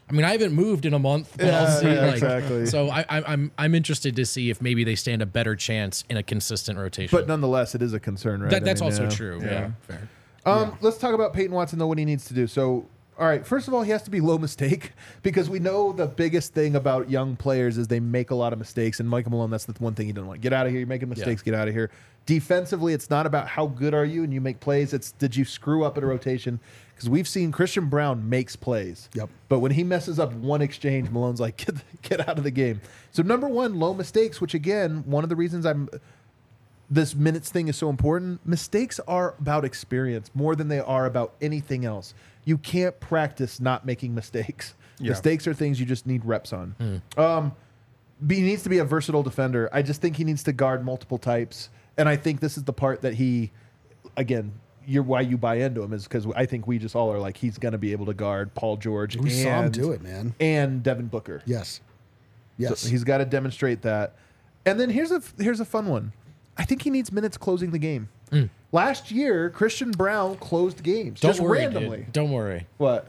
B: I mean, I haven't moved in a month, but
A: Yeah,
B: I'll see.
A: yeah,
B: like,
A: exactly.
B: So I, I, I'm I'm interested to see if maybe they stand a better chance in a consistent rotation.
A: But nonetheless, it is a concern, right?
B: that,
A: I
B: that's
A: mean,
B: also
A: yeah.
B: true. Yeah,
C: Yeah.
B: fair.
A: Um, Let's talk about Peyton Watson, though, what he needs to do. So, all right, first of all, he has to be low mistake because we know the biggest thing about young players is they make a lot of mistakes. And Michael Malone, that's the one thing he doesn't want. Get out of here. You're making mistakes. Get out of here. Defensively, it's not about how good are you and you make plays. It's did you screw up at a rotation? Because we've seen Christian Brown makes plays.
D: Yep.
A: But when he messes up one exchange, Malone's like, get, get out of the game. So, number one, low mistakes, which, again, one of the reasons I'm – this minutes thing is so important. Mistakes are about experience more than they are about anything else. You can't practice not making mistakes.
C: Yeah.
A: Mistakes are things you just need reps on. Um, but he needs to be a versatile defender. I just think he needs to guard multiple types. And I think this is the part that he, again, you're why you buy into him is because I think we just all are like, he's going to be able to guard Paul George.
D: We
A: and,
D: saw him do it, man.
A: And Devin Booker.
D: Yes. Yes.
A: So he's got to demonstrate that. And then here's a here's a fun one. I think he needs minutes closing the game.
B: Mm.
A: Last year, Christian Brown closed games
B: Don't
A: just
B: worry,
A: randomly.
B: dude. Don't worry.
A: What?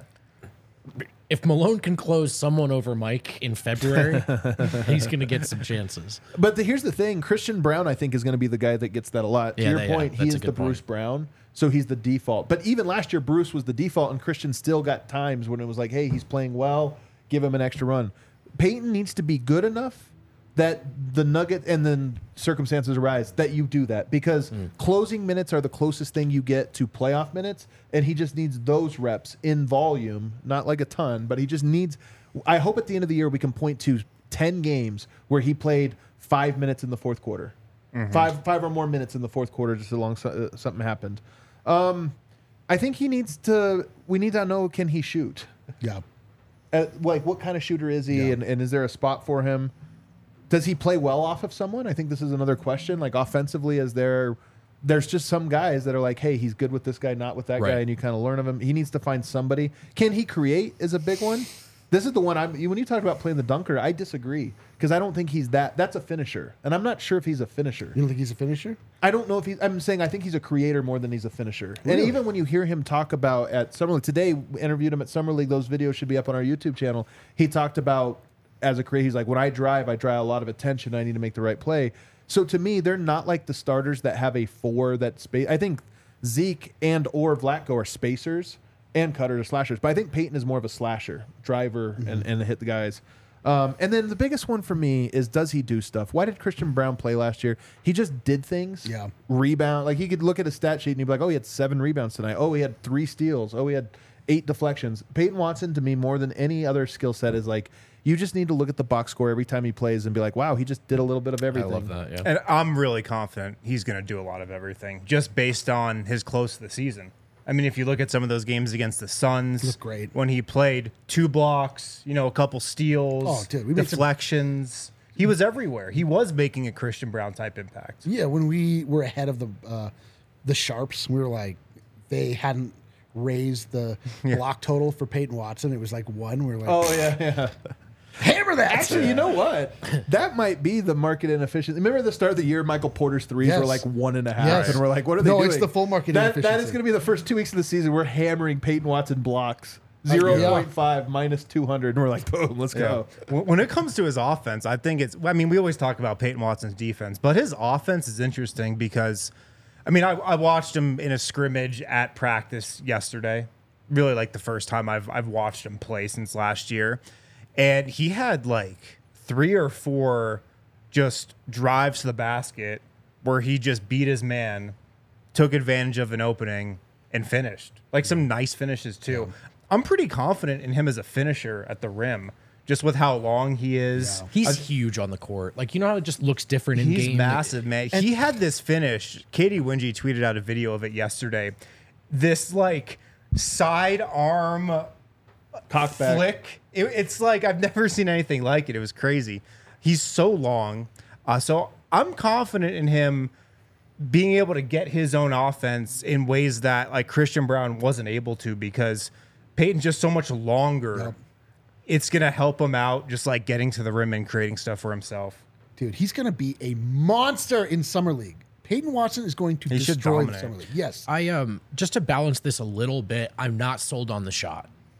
B: If Malone can close someone over Mike in February, he's going to get some chances.
A: But the, here's the thing: Christian Brown, I think, is going to be the guy that gets that a lot.
B: Yeah,
A: to your
B: that- yeah,
A: point, he
B: that's
A: is
B: a
A: the
B: good
A: Bruce
B: point.
A: Brown, so he's the default. But even last year, Bruce was the default, and Christian still got times when it was like, "Hey, he's playing well. Give him an extra run." Peyton needs to be good enough that the nugget and then circumstances arise that you do that because
B: Mm.
A: closing minutes are the closest thing you get to playoff minutes, and he just needs those reps in volume, not like a ton, but he just needs. I hope at the end of the year we can point to ten games where he played five minutes in the fourth quarter, five five or more minutes in the fourth quarter, just along so, uh, something happened. Um, I think he needs to. We need to know, can he shoot?
D: Yeah.
A: Uh, like what kind of shooter is he,
D: Yeah.
A: and, and is there a spot for him? Does he play well off of someone? I think this is another question. Like offensively, is there? There's just some guys that are like, hey, he's good with this guy, not with that
B: Right.
A: guy, and you kind of learn of him. He needs to find somebody. Can he create? Is a big one. This is the one I'm. When you talk about playing the dunker, I disagree because I don't think he's that. That's a finisher, and I'm not sure if he's a finisher.
D: You don't think he's a finisher?
A: I don't know if he's. I'm saying I think he's a creator more than he's a finisher. And
D: Really?
A: even when you hear him talk about at Summer League today, we interviewed him at Summer League. Those videos should be up on our YouTube channel. He talked about as a creator. He's like, when I drive, I draw a lot of attention. I need to make the right play. So to me, they're not like the starters that have a four that space. I think Zeke and or Vlatko are spacers and cutters or slashers. But I think Peyton is more of a slasher, driver,
D: Mm-hmm.
A: and, and hit the guys. Um, and then the biggest one for me is, does he do stuff? Why did Christian Brown play last year? He just did things.
D: Yeah.
A: Rebound. Like, you could look at his stat sheet and you'd be like, oh, he had seven rebounds tonight. Oh, he had three steals. Oh, he had eight deflections. Peyton Watson, to me, more than any other skill set, is like, you just need to look at the box score every time he plays and be like, wow, he just did a little bit of
B: I
A: everything.
B: love that. Yeah.
C: And I'm really confident he's going to do a lot of everything just based on his close to the season. I mean, if you look at some of those games against the Suns,
D: Looked great.
C: when he played two blocks, you know, a couple steals,
D: Oh, dude, we made some-
C: deflections. He was everywhere. He was making a Christian Brown type impact.
D: Yeah, when we were ahead of the uh, the Sharps, we were like, they hadn't raised the block total for Peyton Watson. It was like one. We were like,
A: Oh, yeah, yeah.
D: hammer that.
A: Actually, you know what? That might be the market inefficiency. Remember the start of the year, Michael Porter's threes
D: Yes.
A: were like one and a half,
D: Yes.
A: and we're like, what are they
D: No,
A: doing?
D: it's the full market
A: that, That is
D: inefficiency.
A: going to be the first two weeks of the season. We're hammering Peyton Watson blocks. zero point five minus two hundred, and we're like, boom, let's go.
C: When when it comes to his offense, I think it's, I mean, we always talk about Peyton Watson's defense, but his offense is interesting because, I mean, I, I watched him in a scrimmage at practice yesterday. Really like the first time I've, I've watched him play since last year. And he had like three or four just drives to the basket where he just beat his man, took advantage of an opening, and finished. Like some nice finishes too. I'm pretty confident in him as a finisher at the rim, just with how long he is.
B: He's huge on the court. Like, you know how it just looks different in
C: He's
B: game?
C: massive, man. he had this finish. Katie Wingy tweeted out a video of it yesterday. This like side arm
A: Cockback.
C: flick. It, it's like I've never seen anything like it. It was crazy. He's so long. Uh, so I'm confident in him being able to get his own offense in ways that like Christian Brown wasn't able to because Peyton's just so much longer.
D: Yep.
C: It's going to help him out just like getting to the rim and creating stuff for himself.
D: Dude, he's going to be a monster in Summer League. Peyton Watson is going to
C: He should
D: destroy the
C: dominate.
D: Summer League. Yes.
B: I um just to balance this a little bit, I'm not sold on the shot.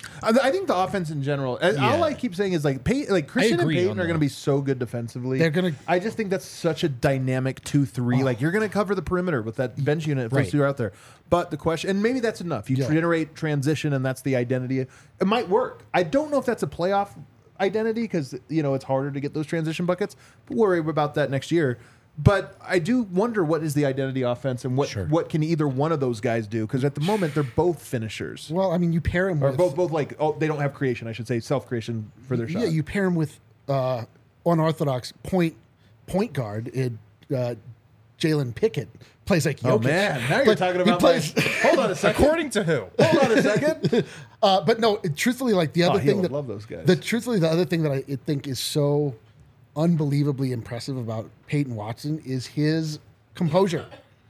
A: I I think the offense in general. uh,
B: Yeah.
A: All I keep saying is like, Pey- like Christian and
B: agree
A: Peyton
B: on
A: are
B: that.
A: going to be so good defensively.
D: They're gonna-
A: I just think that's such a dynamic two three. Like you're going to cover the perimeter with that bench unit if those
B: Right.
A: two are out there. But the question, and maybe that's enough. You
D: Yeah.
A: generate transition, and that's the identity. It might work. I don't know if that's a playoff identity because you know it's harder to get those transition buckets. But we'll worry about that next year. But I do wonder what is the identity offense and what
B: Sure.
A: what can either one of those guys do? Because at the moment they're both finishers.
D: Well, I mean, you pair him
A: Or
D: with
A: both, both like oh, they don't have creation. I should say self creation for their shot.
D: yeah, you pair him with uh, unorthodox point point guard in uh, Jalen Pickett plays like Jokic.
A: oh man, now you're
D: But
A: talking
D: he
A: about.
D: plays-
A: my, hold on a second.
C: According to who?
A: hold on a second.
D: Uh, but no, it- truthfully, like the other
A: Oh, he
D: thing
A: would
D: that
A: love those guys.
D: The truthfully, the other thing that I think is so unbelievably impressive about Peyton Watson is his composure.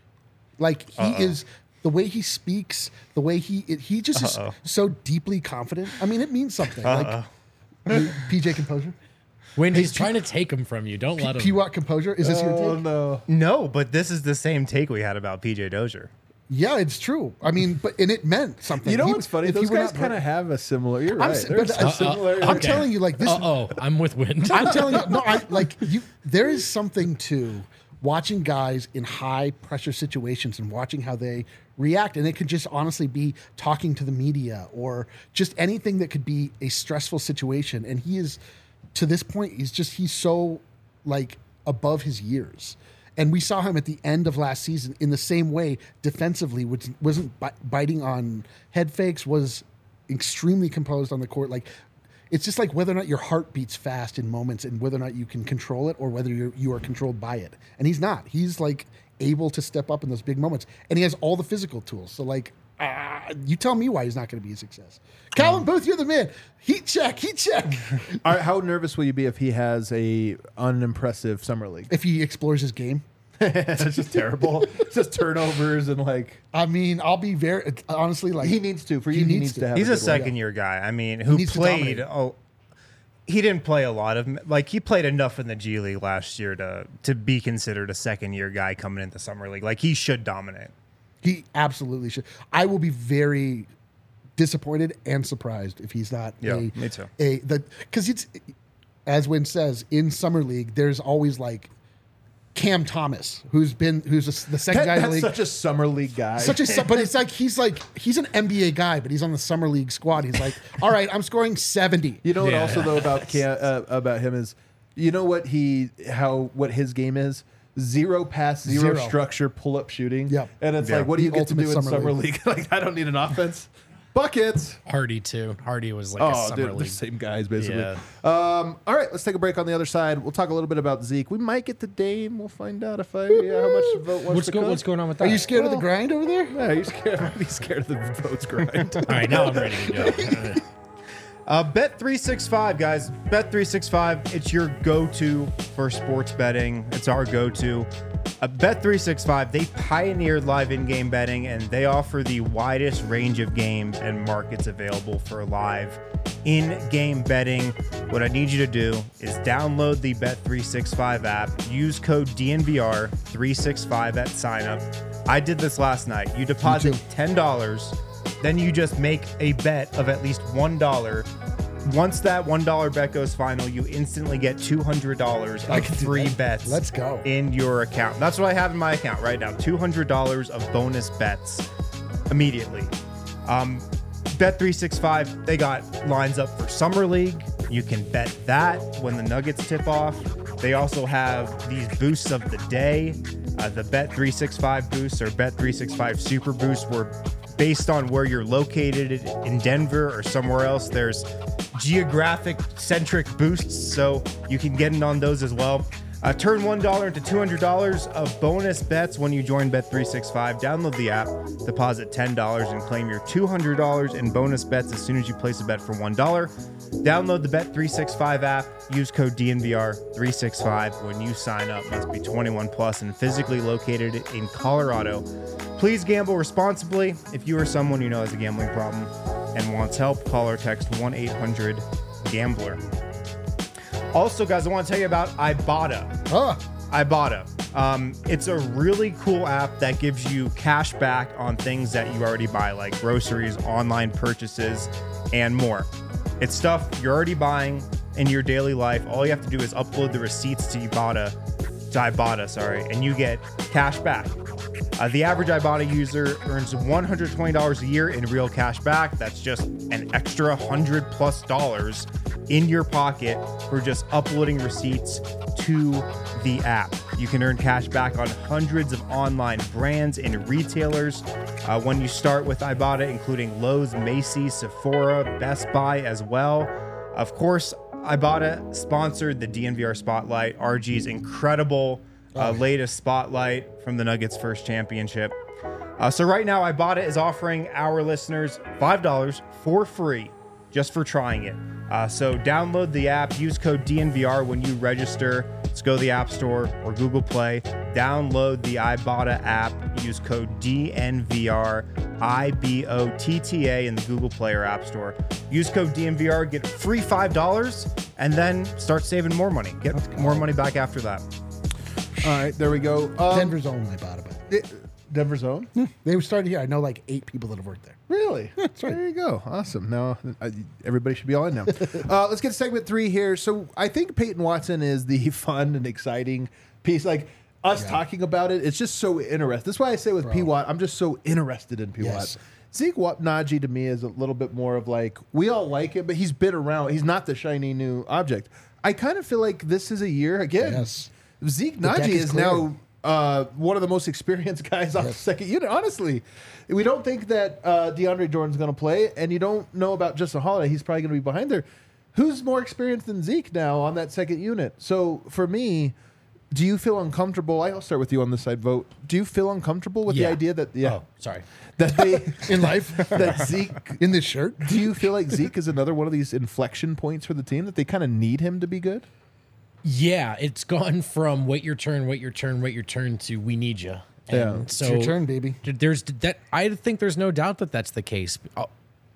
D: Like he
C: Uh-oh.
D: is the way he speaks, the way he it, he just
C: Uh-oh.
D: is so deeply confident. I mean, it means something. Like P J composure,
B: When he's trying to take him from you, don't let him.
D: P Watt composure. Is this your
A: oh
D: take?
A: no.
C: No, but this is the same take we had about P J Dozier.
D: Yeah, it's true. I mean, but and it meant something.
A: You know
D: He-
A: what's funny?
D: if he
A: Those
D: were
A: guys
D: not
A: kind of
D: hurt-
A: have a similar. You're
D: I'm
A: right.
D: s-
A: There's
D: but,
A: a
D: uh,
A: similar.
D: I'm telling you, like this.
B: Uh oh, I'm with Wind.
D: I'm telling you, no, I like you. There is something to watching guys in high pressure situations and watching how they react, and it could just honestly be talking to the media or just anything that could be a stressful situation. And he is, to this point, he's just he's so like above his years. And we saw him at the end of last season in the same way defensively, which wasn't bi- biting on head fakes, was extremely composed on the court. Like, it's just like whether or not your heart beats fast in moments and whether or not you can control it or whether you're, you are controlled by it. And he's not. He's like able to step up in those big moments. And he has all the physical tools. So, like, uh, you tell me why he's not going to be a success. Calvin Booth, you're the man. Heat check, heat check.
A: All right, how nervous will you be if he has a unimpressive summer league?
D: If he explores his game.
A: It's just terrible. It's just turnovers and like
D: I mean, I'll be very honestly like
A: he needs to. For
D: He
A: you, he
D: needs
A: needs
D: to.
A: to have.
C: He's
A: a
C: a
A: good one.
C: second year guy. I mean, who
D: needs to
C: played?
D: dominate.
C: Oh, he didn't play a lot of like he played enough in the G League last year to to be considered a second year guy coming into summer league. Like he should dominate.
D: he absolutely should. I will be very disappointed and surprised if he's not
C: Yeah,
D: a
C: me too.
D: a the because it's as Wynn says in summer league. There's always like Cam Thomas, who's been who's a, the second
A: That-
D: guy in the
A: that's
D: league.
A: such a summer league guy.
D: Such a su- but it's like he's like he's an N B A guy, but he's on the summer league squad. He's like, all right, I'm scoring seventy.
A: You know what
B: Yeah.
A: also though about Cam, uh, about him is, you know what he how what his game is zero pass, zero,
D: Zero.
A: structure, pull up shooting.
D: Yep.
A: And it's
C: Yeah.
A: like, what do you
D: The
A: get to do
D: ultimate
A: in
D: summer
A: summer
D: league.
A: league? Like I don't need an offense, buckets.
B: Hardy too. Hardy was like a
A: Oh,
B: summer
A: dude, the
B: league.
A: same guys basically.
B: Yeah.
A: Um, all right, let's take a break on the other side. We'll talk a little bit about Zeke. We might get to Dame. We'll find out if I yeah, how much the vote wants
B: What's,
A: to
B: go,
A: cook.
B: what's going on with that?
D: Are you scared of the
A: Well-
D: grind over there?
A: Yeah, are you scared? I'd be scared of the votes grind.
B: All right, now I'm ready to go.
C: Uh, Bet three sixty-five, guys. Bet three sixty-five, it's your go-to for sports betting. It's our go-to. Uh, Bet three sixty-five, they pioneered live in-game betting, and they offer the widest range of games and markets available for live in-game betting. What I need you to do is download the Bet three sixty-five app, use code D N V R three sixty-five at sign-up. I did this last night. You deposit
D: too.
C: ten dollars, then you just make a bet of at least one dollar. Once that one dollar bet goes final, you instantly get two hundred dollars
D: I
C: of
D: can do
C: free
D: that.
C: bets.
D: Let's go.
C: In your account. That's what I have in my account right now. two hundred dollars of bonus bets immediately. Um, Bet three sixty-five, they got lines up for Summer League. You can bet that when the Nuggets tip off. They also have these boosts of the day. Uh, the Bet three sixty-five boosts or Bet three sixty-five Super Boosts were based on where you're located in Denver or somewhere else. There's geographic centric boosts, so you can get in on those as well. Uh, turn one dollar into two hundred dollars of bonus bets when you join Bet three sixty-five. Download the app, deposit ten dollars, and claim your two hundred dollars in bonus bets as soon as you place a bet for one dollar. Download the Bet three sixty-five app. Use code D N V R three sixty-five when you sign up. Must be twenty-one plus and physically located in Colorado. Please gamble responsibly. If you or someone you know has a gambling problem and wants help, call or text one eight hundred gambler. Also, guys, I want to tell you about Ibotta.
D: Oh,
C: Ibotta. Um, it's a really cool app that gives you cash back on things that you already buy, like groceries, online purchases, and more. It's stuff you're already buying in your daily life. All you have to do is upload the receipts to Ibotta, to Ibotta, sorry, and you get cash back. Uh, the average Ibotta user earns one hundred twenty dollars a year in real cash back. That's just an extra one hundred plus dollars in your pocket for just uploading receipts to the app. You can earn cash back on hundreds of online brands and retailers uh, when you start with Ibotta, including Lowe's, Macy's, Sephora, Best Buy as well. Of course, Ibotta sponsored the D N V R Spotlight, R G's incredible uh, latest spotlight from the Nuggets' first championship. Uh, so right now, Ibotta is offering our listeners five dollars for free just for trying it. Uh, so download the app, use code D N V R when you register. Let's go to the App Store or Google Play. Download the Ibotta app, use code D N V R, I B O T T A in the Google Play or App Store. Use code D N V R, get free five dollars, and then start saving more money. Get more money back after that.
A: All right, there we go. Um,
D: Denver's own Ibotta. But
A: it- Denver's own?
D: they started here. I know like eight people that have worked there.
A: Really?
D: That's right.
A: There you go. Awesome. Now uh, everybody should be all in now. uh, let's get to segment three here. So I think Peyton Watson is the fun and exciting piece. Like us
D: Yeah.
A: talking about it, it's just so interesting. That's why I say with
D: Bro.
A: P. Watt, I'm just so interested in P.
D: Yes.
A: Watt. Zeke Wat- Najee to me is a little bit more of like, we all like it, but he's been around. He's not the shiny new object. I kind of feel like this is a year again.
D: Yes.
A: Zeke
D: The deck
A: Najee
D: is
A: is
D: clear.
A: now uh, one of the most experienced guys off the second unit. Honestly, we don't think that uh, DeAndre Jordan's going to play, and you don't know about Justin Holiday. He's probably going to be behind there. Who's more experienced than Zeke now on that second unit? So for me, do you feel uncomfortable? I'll start with you on this side, Vote. Do you feel uncomfortable with
B: Yeah.
A: the idea that yeah
B: Oh, sorry.
A: that they
D: In life,
A: that Zeke?
D: in this shirt.
A: Do you feel like Zeke is another one of these inflection points for the team that they kind of need him to be good?
B: Yeah, it's gone from wait your turn, wait your turn, wait your turn to we need you.
A: Yeah.
B: And
A: It's
B: so
D: It's your turn, baby.
B: There's that. I think there's no doubt that that's the case. Al-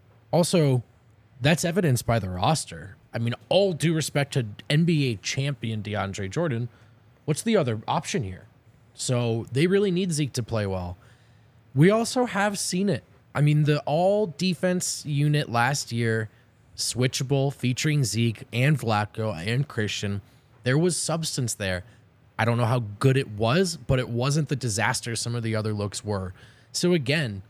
B: Also, that's evidenced by the roster. I mean, all due respect to N B A champion DeAndre Jordan, what's the other option here? So they really need Zeke to play well. We also have seen it. I mean, the all defense unit last year, switchable, featuring Zeke and Vlatko and Christian. There was substance there. I don't know how good it was, but it wasn't the disaster some of the other looks were. So again,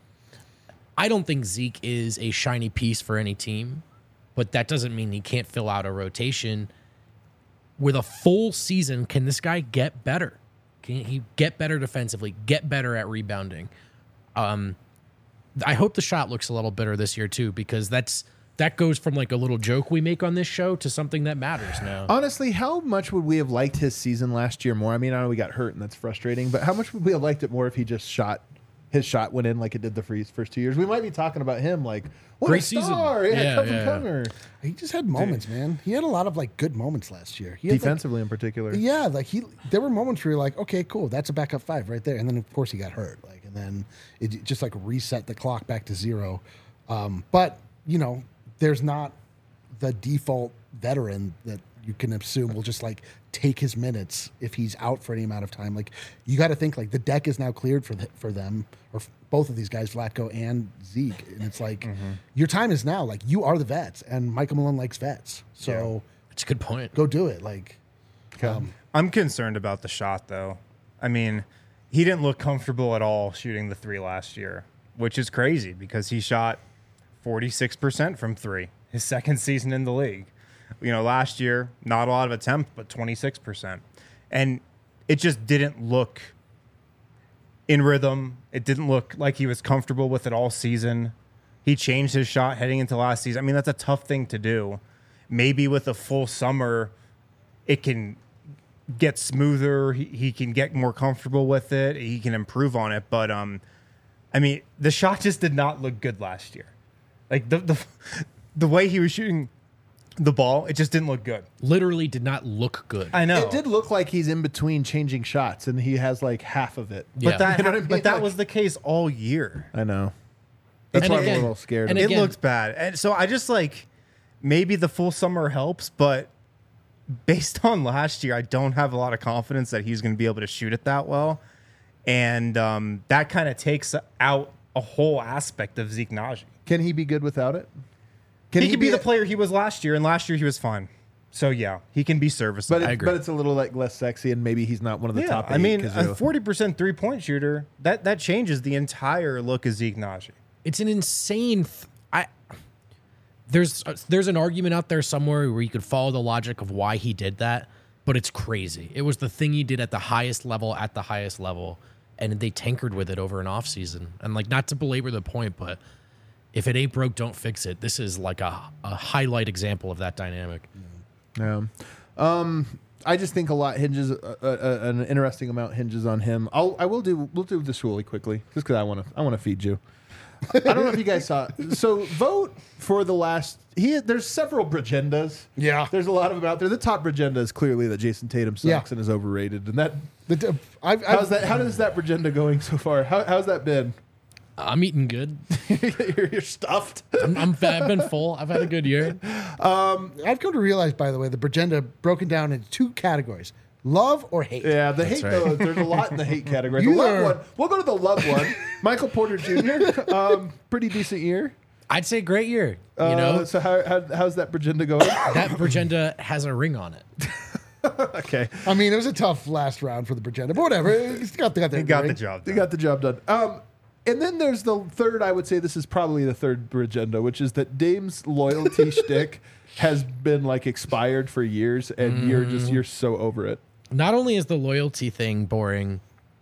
B: I don't think Zeke is a shiny piece for any team, but that doesn't mean he can't fill out a rotation. With a full season, can this guy get better? Can he get better defensively, get better at rebounding? Um, I hope the shot looks a little better this year too, because that's that goes from like a little joke we make on this show to something that matters now.
A: Honestly, how much would we have liked his season last year more? I mean, I know we got hurt and that's frustrating, but how much would we have liked it more if he just shot, his shot went in like it did the freeze first two years? We might be talking about him like, what
B: Great
A: a
B: season.
A: star. Yeah,
B: Yeah,
A: come from
B: yeah.
A: cover.
D: He just had moments, man. He had a lot of like good moments last year. He had, like-
A: Defensively in particular.
D: yeah, like he, there were moments where you're like, okay, cool, that's a backup five right there, and then of course he got hurt, like, and then it just like reset the clock back to zero. Um, but you know, there's not the default veteran that you can assume will just like take his minutes if he's out for any amount of time. Like you got to think like the deck is now cleared for the, for them or f- both of these guys, Vlatko and Zeke, and it's like your time is now. Like you are the vets, and Michael Malone likes vets, so
B: That's a good point.
D: go do it. Like
C: I'm concerned about the shot, though. I mean, he didn't look comfortable at all shooting the three last year, which is crazy because he shot forty-six percent from three his second season in the league. You know, last year, not a lot of attempt, but twenty-six percent. And it just didn't look in rhythm. It didn't look like he was comfortable with it all season. He changed his shot heading into last season. I mean, that's a tough thing to do. Maybe with a full summer, it can get smoother. He, he can get more comfortable with it. He can improve on it. But, um, I mean, the shot just did not look good last year. Like, the the, the way he was shooting the ball, it just didn't look good.
B: Literally did not look good.
C: I know.
A: It did look like he's in between changing shots, and he has like half of it.
B: Yeah.
C: But that,
A: You know what I mean?
C: but that
A: Like-
C: was the case all year.
A: I know. That's
B: And
A: why
B: again-
A: I'm a little scared.
B: and
A: of
C: It
A: it.
B: again-
C: looked bad. And so I just like, maybe the full summer helps, but based on last year, I don't have a lot of confidence that he's going to be able to shoot it that well. And um, that kind of takes out a whole aspect of Zeke Naji.
A: Can he be good without it? Can
C: He, he could be,
A: a-
C: the player he was last year, and last year he was fine. So, yeah, he can be serviceable.
A: But,
B: I
A: it,
B: agree.
A: but it's a little like less sexy, and maybe he's not one of the
C: yeah,
A: top eight.
C: I mean,
A: 'cause
C: a
A: you-
C: forty percent three-point shooter, that, that changes the entire look of Zeke Naji.
B: It's an insane. Th- I there's uh, there's an argument out there somewhere where you could follow the logic of why he did that, but it's crazy. It was the thing he did at the highest level at the highest level, and they tinkered with it over an off season. And like, not to belabor the point, but if it ain't broke, don't fix it. This is like a a highlight example of that dynamic.
A: Yeah. Um, I just think a lot hinges, uh, uh, an interesting amount hinges on him. I'll, I will do, we'll do this really quickly, just because I want to, I want to feed you. I don't know if you guys saw. So vote for the last. He there's several Bragendas.
D: Yeah.
A: there's a lot of them out there. The top Bragenda is clearly that Jason Tatum sucks
D: Yeah.
A: and is overrated. And that
D: The, I've,
A: how's
D: I've,
A: that? How does that Bragenda going so far? How, how's that been?
B: I'm eating good.
A: you're, you're stuffed.
B: I'm, I'm fat. I've been full. I've had a good year.
D: I've come to realize, by the way, the Bragenda broken down into two categories: love or hate.
A: Yeah, the hate
B: right.
A: though. There's a lot in the hate category.
D: You
A: the love
D: are-
A: one. We'll go to the love one. Michael Porter Junior Um, pretty decent year.
B: I'd say great year. You
A: Uh,
B: know,
A: So how, how how's that Bragenda going?
B: that Bragenda has a ring on it.
A: Okay,
D: I mean, it was a tough last round for the Bragenda, but whatever. It's got, got,
C: He got the job
A: they
C: done.
A: got the job done. Um, and then there's the third. I would say this is probably the third Bragenda, which is that Dame's loyalty shtick has been like expired for years, and you're just you're so over it.
B: Not only is the loyalty thing boring,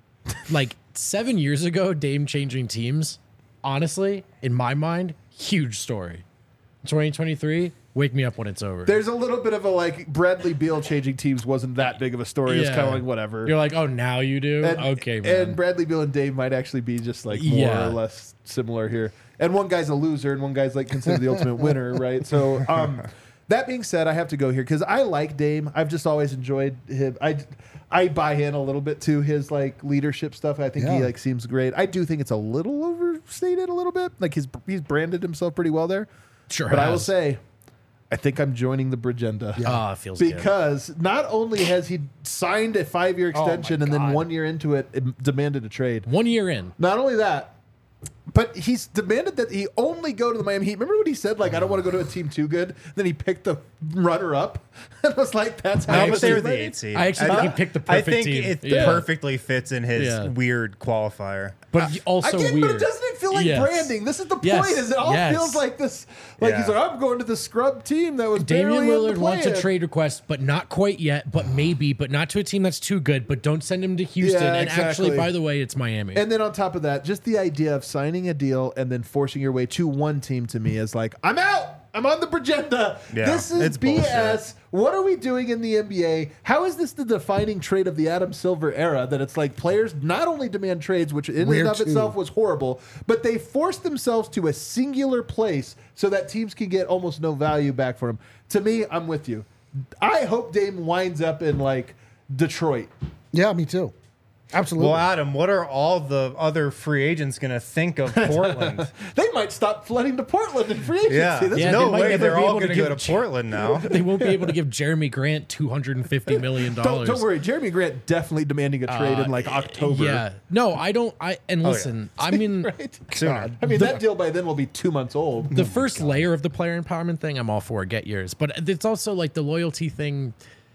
B: like seven years ago, Dame changing teams, honestly, in my mind, huge story. twenty twenty-three, wake me up when it's over.
A: There's a little bit of a like Bradley Beal changing teams wasn't that big of a story. It's
B: Yeah.
A: kind of like whatever.
B: You're like, oh, now you do?
A: And,
B: okay, man.
A: And Bradley Beal and Dave might actually be just like more
B: Yeah.
A: or less similar here. And one guy's a loser, and one guy's like considered the ultimate winner, right? So, um, that being said, I have to go here because I like Dame. I've just always enjoyed him. I, I buy in a little bit to his like leadership stuff. I think he
D: Yeah.
A: like seems great. I do think it's a little overstated a little bit. Like his he's branded himself pretty well there.
B: Sure
A: But I will
B: has.
A: say, I think I'm joining the Bragenda.
B: Ah, it feels good.
A: Because not only has he signed a five year
D: Oh my
A: extension and then
D: God.
A: one year into it, it demanded a trade.
B: One year in.
A: Not only that, but he's demanded that he only go to the Miami Heat. Remember what he said? Like, I don't want to go to a team too good. Then he picked the runner up. And was like, that's how
C: No,
A: much
C: but they were
A: he
C: the
A: made.
C: eight seed.
B: I actually think he picked the
C: I
B: perfect
C: think
B: team.
C: it
B: Yeah.
C: perfectly fits in his
B: Yeah.
C: weird qualifier.
B: But also
A: Again,
B: weird.
A: but it doesn't it feel like
B: Yes.
A: branding? This is the point.
B: Yes.
A: Is it all
B: Yes.
A: feels like this? Like he's
C: Yeah.
A: like, I'm going to the scrub team that was
B: Damian
A: barely in
B: Lillard
A: the
B: wants a
A: plan.
B: trade request, but not quite yet, but maybe, but not to a team that's too good, but don't send him to Houston.
A: Yeah,
B: and actually,
A: exactly.
B: by the way, it's Miami.
A: And then on top of that, just the idea of signing a deal and then forcing your way to one team to me is like, I'm out. I'm on the Bragenda.
C: Yeah,
A: this is
C: it's
A: B S.
C: bullshit.
A: What are we doing in the N B A? How is this the defining trait of the Adam Silver era? That it's like players not only demand trades, which in
D: Weird
A: and of
D: too.
A: itself was horrible, but they force themselves to a singular place so that teams can get almost no value back for them. To me, I'm with you. I hope Dame winds up in like Detroit.
D: Yeah, me too. Absolutely.
C: Well, Adam, what are all the other free agents going to think of Portland?
A: They might stop flooding to Portland in free agency.
C: yeah,
A: This-
B: Yeah,
C: no
B: they might
C: way.
B: never
C: They're
B: be
C: all
B: able to
C: going to go
B: give-
C: to Portland now.
B: They won't be able to give Jeremy Grant two hundred fifty million
A: Don't,
B: dollars.
A: don't worry, Jeremy Grant definitely demanding a trade in like October.
B: Yeah. No, I don't. I And listen, I mean,
A: Right?
C: Sooner.
A: I mean, that deal by then will be two months old.
B: the first layer of the player empowerment thing, I'm all for. Get yours. But it's also like the loyalty thing.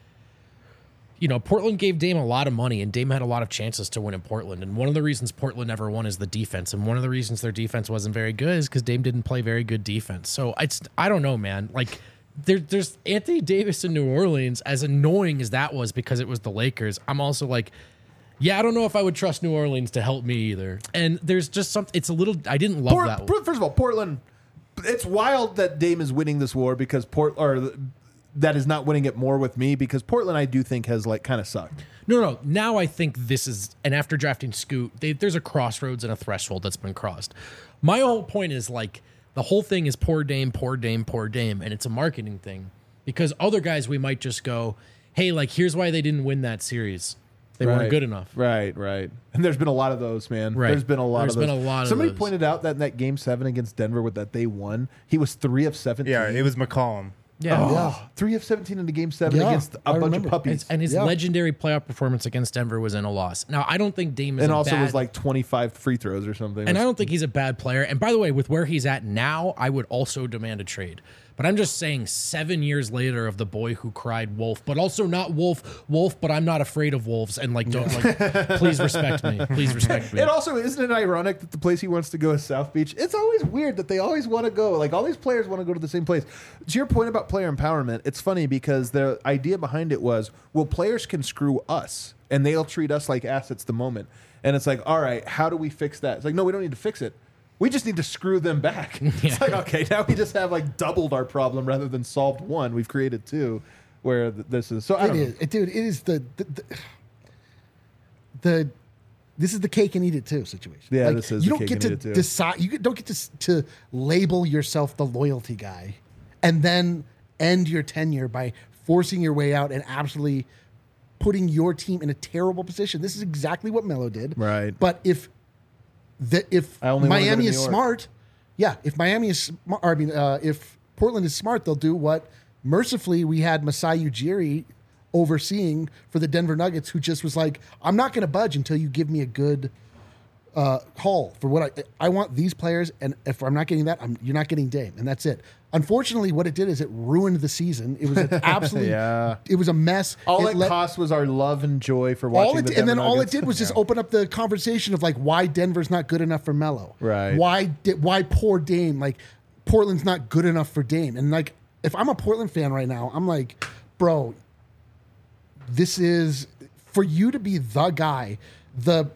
B: You know, Portland gave Dame a lot of money, and Dame had a lot of chances to win in Portland. And one of the reasons Portland never won is the defense. And one of the reasons their defense wasn't very good is because Dame didn't play very good defense. So it's, I don't know, man. Like, there, there's Anthony Davis in New Orleans, as annoying as that was because it was the Lakers. I'm also like, yeah, I don't know if I would trust New Orleans to help me either. And there's just something, it's a little, I didn't love
A: Port-
B: that.
A: Port- first of all, Portland. It's wild that Dame is winning this war because Port or that is not winning it more with me because Portland I do think has like kind of sucked.
B: No, no. Now I think this is, and after drafting Scoot, they, there's a crossroads and a threshold that's been crossed. My whole point is like the whole thing is poor Dame, poor Dame, poor Dame, and it's a marketing thing because other guys we might just go, hey, like here's why they didn't win that series. They weren't good enough.
A: Right, right. And there's been a lot of those, man.
B: Right.
A: There's been a lot
B: There's
A: of those.
B: been a lot of
A: Somebody
B: those.
A: pointed out that in that game seven against Denver with that they won, he was three of seventeen.
C: Yeah, it was McCollum.
B: Yeah.
A: Oh,
D: Yeah.
A: three of seventeen in the game seven
D: Yeah,
A: against a
D: I
A: bunch
D: remember.
A: of puppies.
B: And, and his
D: Yeah.
B: legendary playoff performance against Denver was in a loss. Now, I don't think Dame is
A: and
B: a
A: also
B: bad,
A: was like twenty-five free throws or something.
B: and I don't think he's a bad player. And by the way, with where he's at now, I would also demand a trade. But I'm just saying, seven years later, of the boy who cried wolf, but also not wolf, wolf. But I'm not afraid of wolves, and like, don't like, please respect me, please respect me.
A: It also isn't it ironic that the place he wants to go is South Beach. It's always weird that they always want to go. Like all these players want to go to the same place. To your point about player empowerment, it's funny because the idea behind it was, well, players can screw us and they'll treat us like assets the moment. And it's like, all right, how do we fix that? It's like, no, we don't need to fix it. We just need to screw them back. It's like, okay, now we just have like doubled our problem rather than solved one. We've created two where th- this is. So I
D: It
A: don't know.
D: is, it, dude. It is the the, the the this is the cake and eat it too situation.
A: Yeah,
D: Like,
A: this is
D: you
A: the
D: don't
A: cake
D: get
A: and
D: to
A: eat it too.
D: decide. You don't get to s- to label yourself the loyalty guy, and then end your tenure by forcing your way out and absolutely putting your team in a terrible position. This is exactly what Melo did.
A: Right.
D: But if the if
A: I only wanna go to
D: Miami
A: New
D: is
A: York.
D: smart, yeah. If Miami is smart, I mean, uh, if Portland is smart, they'll do what mercifully we had Masai Ujiri overseeing for the Denver Nuggets, who just was like, I'm not going to budge until you give me a good uh, haul for what I I want these players, and if I'm not getting that, I'm, you're not getting Dame, and that's it. Unfortunately, what it did is it ruined the season. It was an absolutely,
A: Yeah.
D: it was a mess.
A: All
D: it
A: it
D: let-
A: cost was our love and joy for watching
D: all it,
A: the
D: and then
A: Denver
D: all it
A: Nuggets.
D: did was just open up the conversation of like why Denver's not good enough for Melo.
A: Right.
D: Why di- why poor Dame? Like Portland's not good enough for Dame. And like if I'm a Portland fan right now, I'm like, bro, this is for you to be the guy, the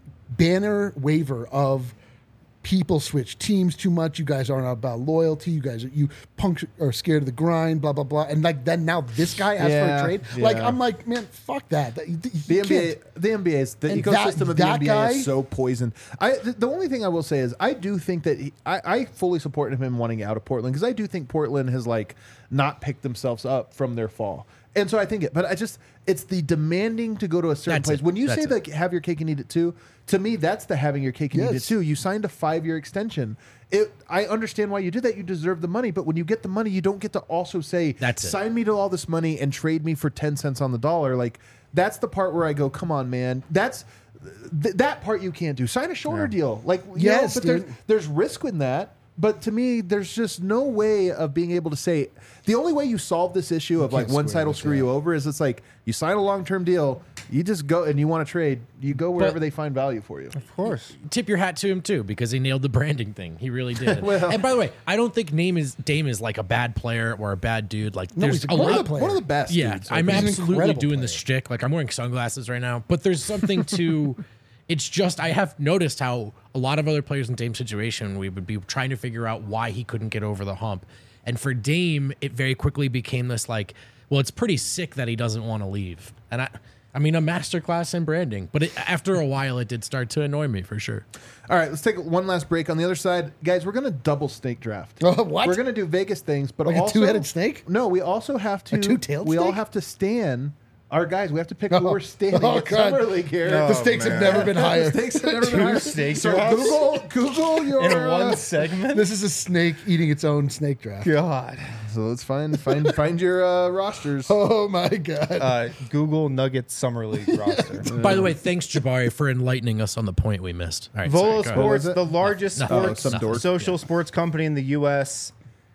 D: banner waver of people switch teams too much. You guys aren't about loyalty. You guys are you punks are scared of the grind. Blah blah blah. And like then now this guy asks
A: Yeah,
D: for a trade. Like
A: yeah.
D: I'm like, man, fuck that. That- you- you
A: The N B A,
D: can't.
A: the N B A is the
D: And
A: ecosystem
D: that-
A: of the
D: that
A: N B A
D: guy-
A: is so poisoned. I the, the only thing I will say is I do think that he, I, I fully support him wanting out of Portland because I do think Portland has like not picked themselves up from their fall, and so I think it. But I just it's the demanding to go to a certain
B: That's
A: place.
B: it.
A: When you
B: That's
A: say
B: it.
A: like have your cake and eat it too, to me that's the having your cake and eat it
D: Yes.
A: too. You signed a five year extension. It, I understand why you did that. You deserve the money, but when you get the money, you don't get to also say,
B: That's it.
A: sign me to all this money and trade me for ten cents on the dollar. Like that's the part where I go, come on, man. That's th- that part you can't do. Sign a shorter deal. Like you know,
D: Yes,
A: but
D: dude.
A: there's there's risk in that. But to me, there's just no way of being able to say the only way you solve this issue of like
D: can't
A: one
D: square
A: side will
D: this,
A: screw
D: yeah.
A: you over is it's like you sign a long term deal, you just go and you want to trade, you go wherever
B: But-
A: they find value for you.
C: Of course.
B: Tip your hat to him too because he nailed the branding thing. He really did.
A: Well-
B: and by the way, I don't think Dame is Dame is like a bad player or a bad dude. Like
D: No,
B: there's
D: he's a
B: a
D: great
B: lot.
A: One of, the,
D: player.
A: one of the best.
B: Yeah,
A: dudes,
B: I'm
A: like,
D: he's an
B: absolutely
D: incredible
B: doing the
D: player.
B: shtick. Like I'm wearing sunglasses right now, but there's something to. It's just I have noticed how a lot of other players in Dame's situation we would be trying to figure out why he couldn't get over the hump, and for Dame it very quickly became this like, well, it's pretty sick that he doesn't want to leave, and I. I mean, a masterclass in branding, but it, after a while, it did start to annoy me for sure.
A: All right, let's take one last break. On the other side, guys, we're going to double snake draft.
D: Uh, what?
A: We're going to do Vegas things, but
D: Like a
A: also
D: two-headed snake?
A: No, we also have to.
D: A two-tailed
A: We all
D: snake?
A: have to stand. Our guys, we have to pick who
D: Oh.
A: we're standing
D: Oh,
A: at
D: God.
A: Summer League here.
C: No.
D: the stakes have
C: man.
D: never been higher.
A: The stakes have never been higher.
C: snake
A: So
C: drafts?
A: Google, Google your.
C: In
A: uh,
C: one segment?
D: This is a snake eating its own snake draft.
C: God.
A: so let's find find find your uh, rosters.
D: Oh my god.
C: Uh, Google Nuggets Summer League roster.
B: By the way, thanks Jabari for enlightening us on the point we missed. All right,
C: Volo
B: sorry, go ahead.
A: What was
C: Sports,
A: it?
C: the largest
B: No,
C: sports
A: some dork.
C: social sports company in the U S.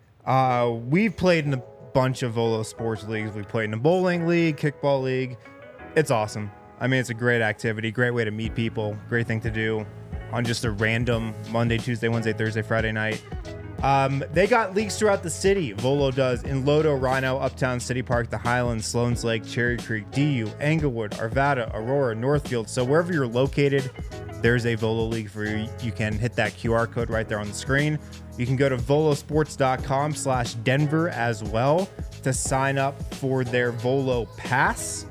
C: Uh, we've played in a bunch of Volo sports leagues. We played in a bowling league, kickball league. It's awesome. I mean, it's a great activity, great way to meet people, great thing to do on just a random Monday, Tuesday, Wednesday, Thursday, Friday night. Um, they got leagues throughout the city. Volo does in Lodo, Rhino, Uptown, City Park, the Highlands, Sloan's Lake, Cherry Creek, D U, Englewood, Arvada, Aurora, Northfield. So wherever you're located, there's a Volo league for you. You can hit that Q R code right there on the screen. You can go to volosports.com slash Denver as well to sign up for their Volo Pass.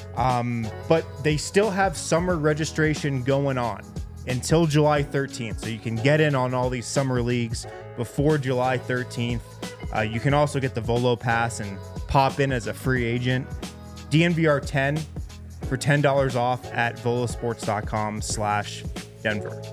C: Um, but they still have summer registration going on until July thirteenth. So you can get in on all these summer leagues before July thirteenth. Uh, you can also get the Volo Pass and pop in as a free agent. D N V R ten for ten dollars off at volosports.com slash Denver.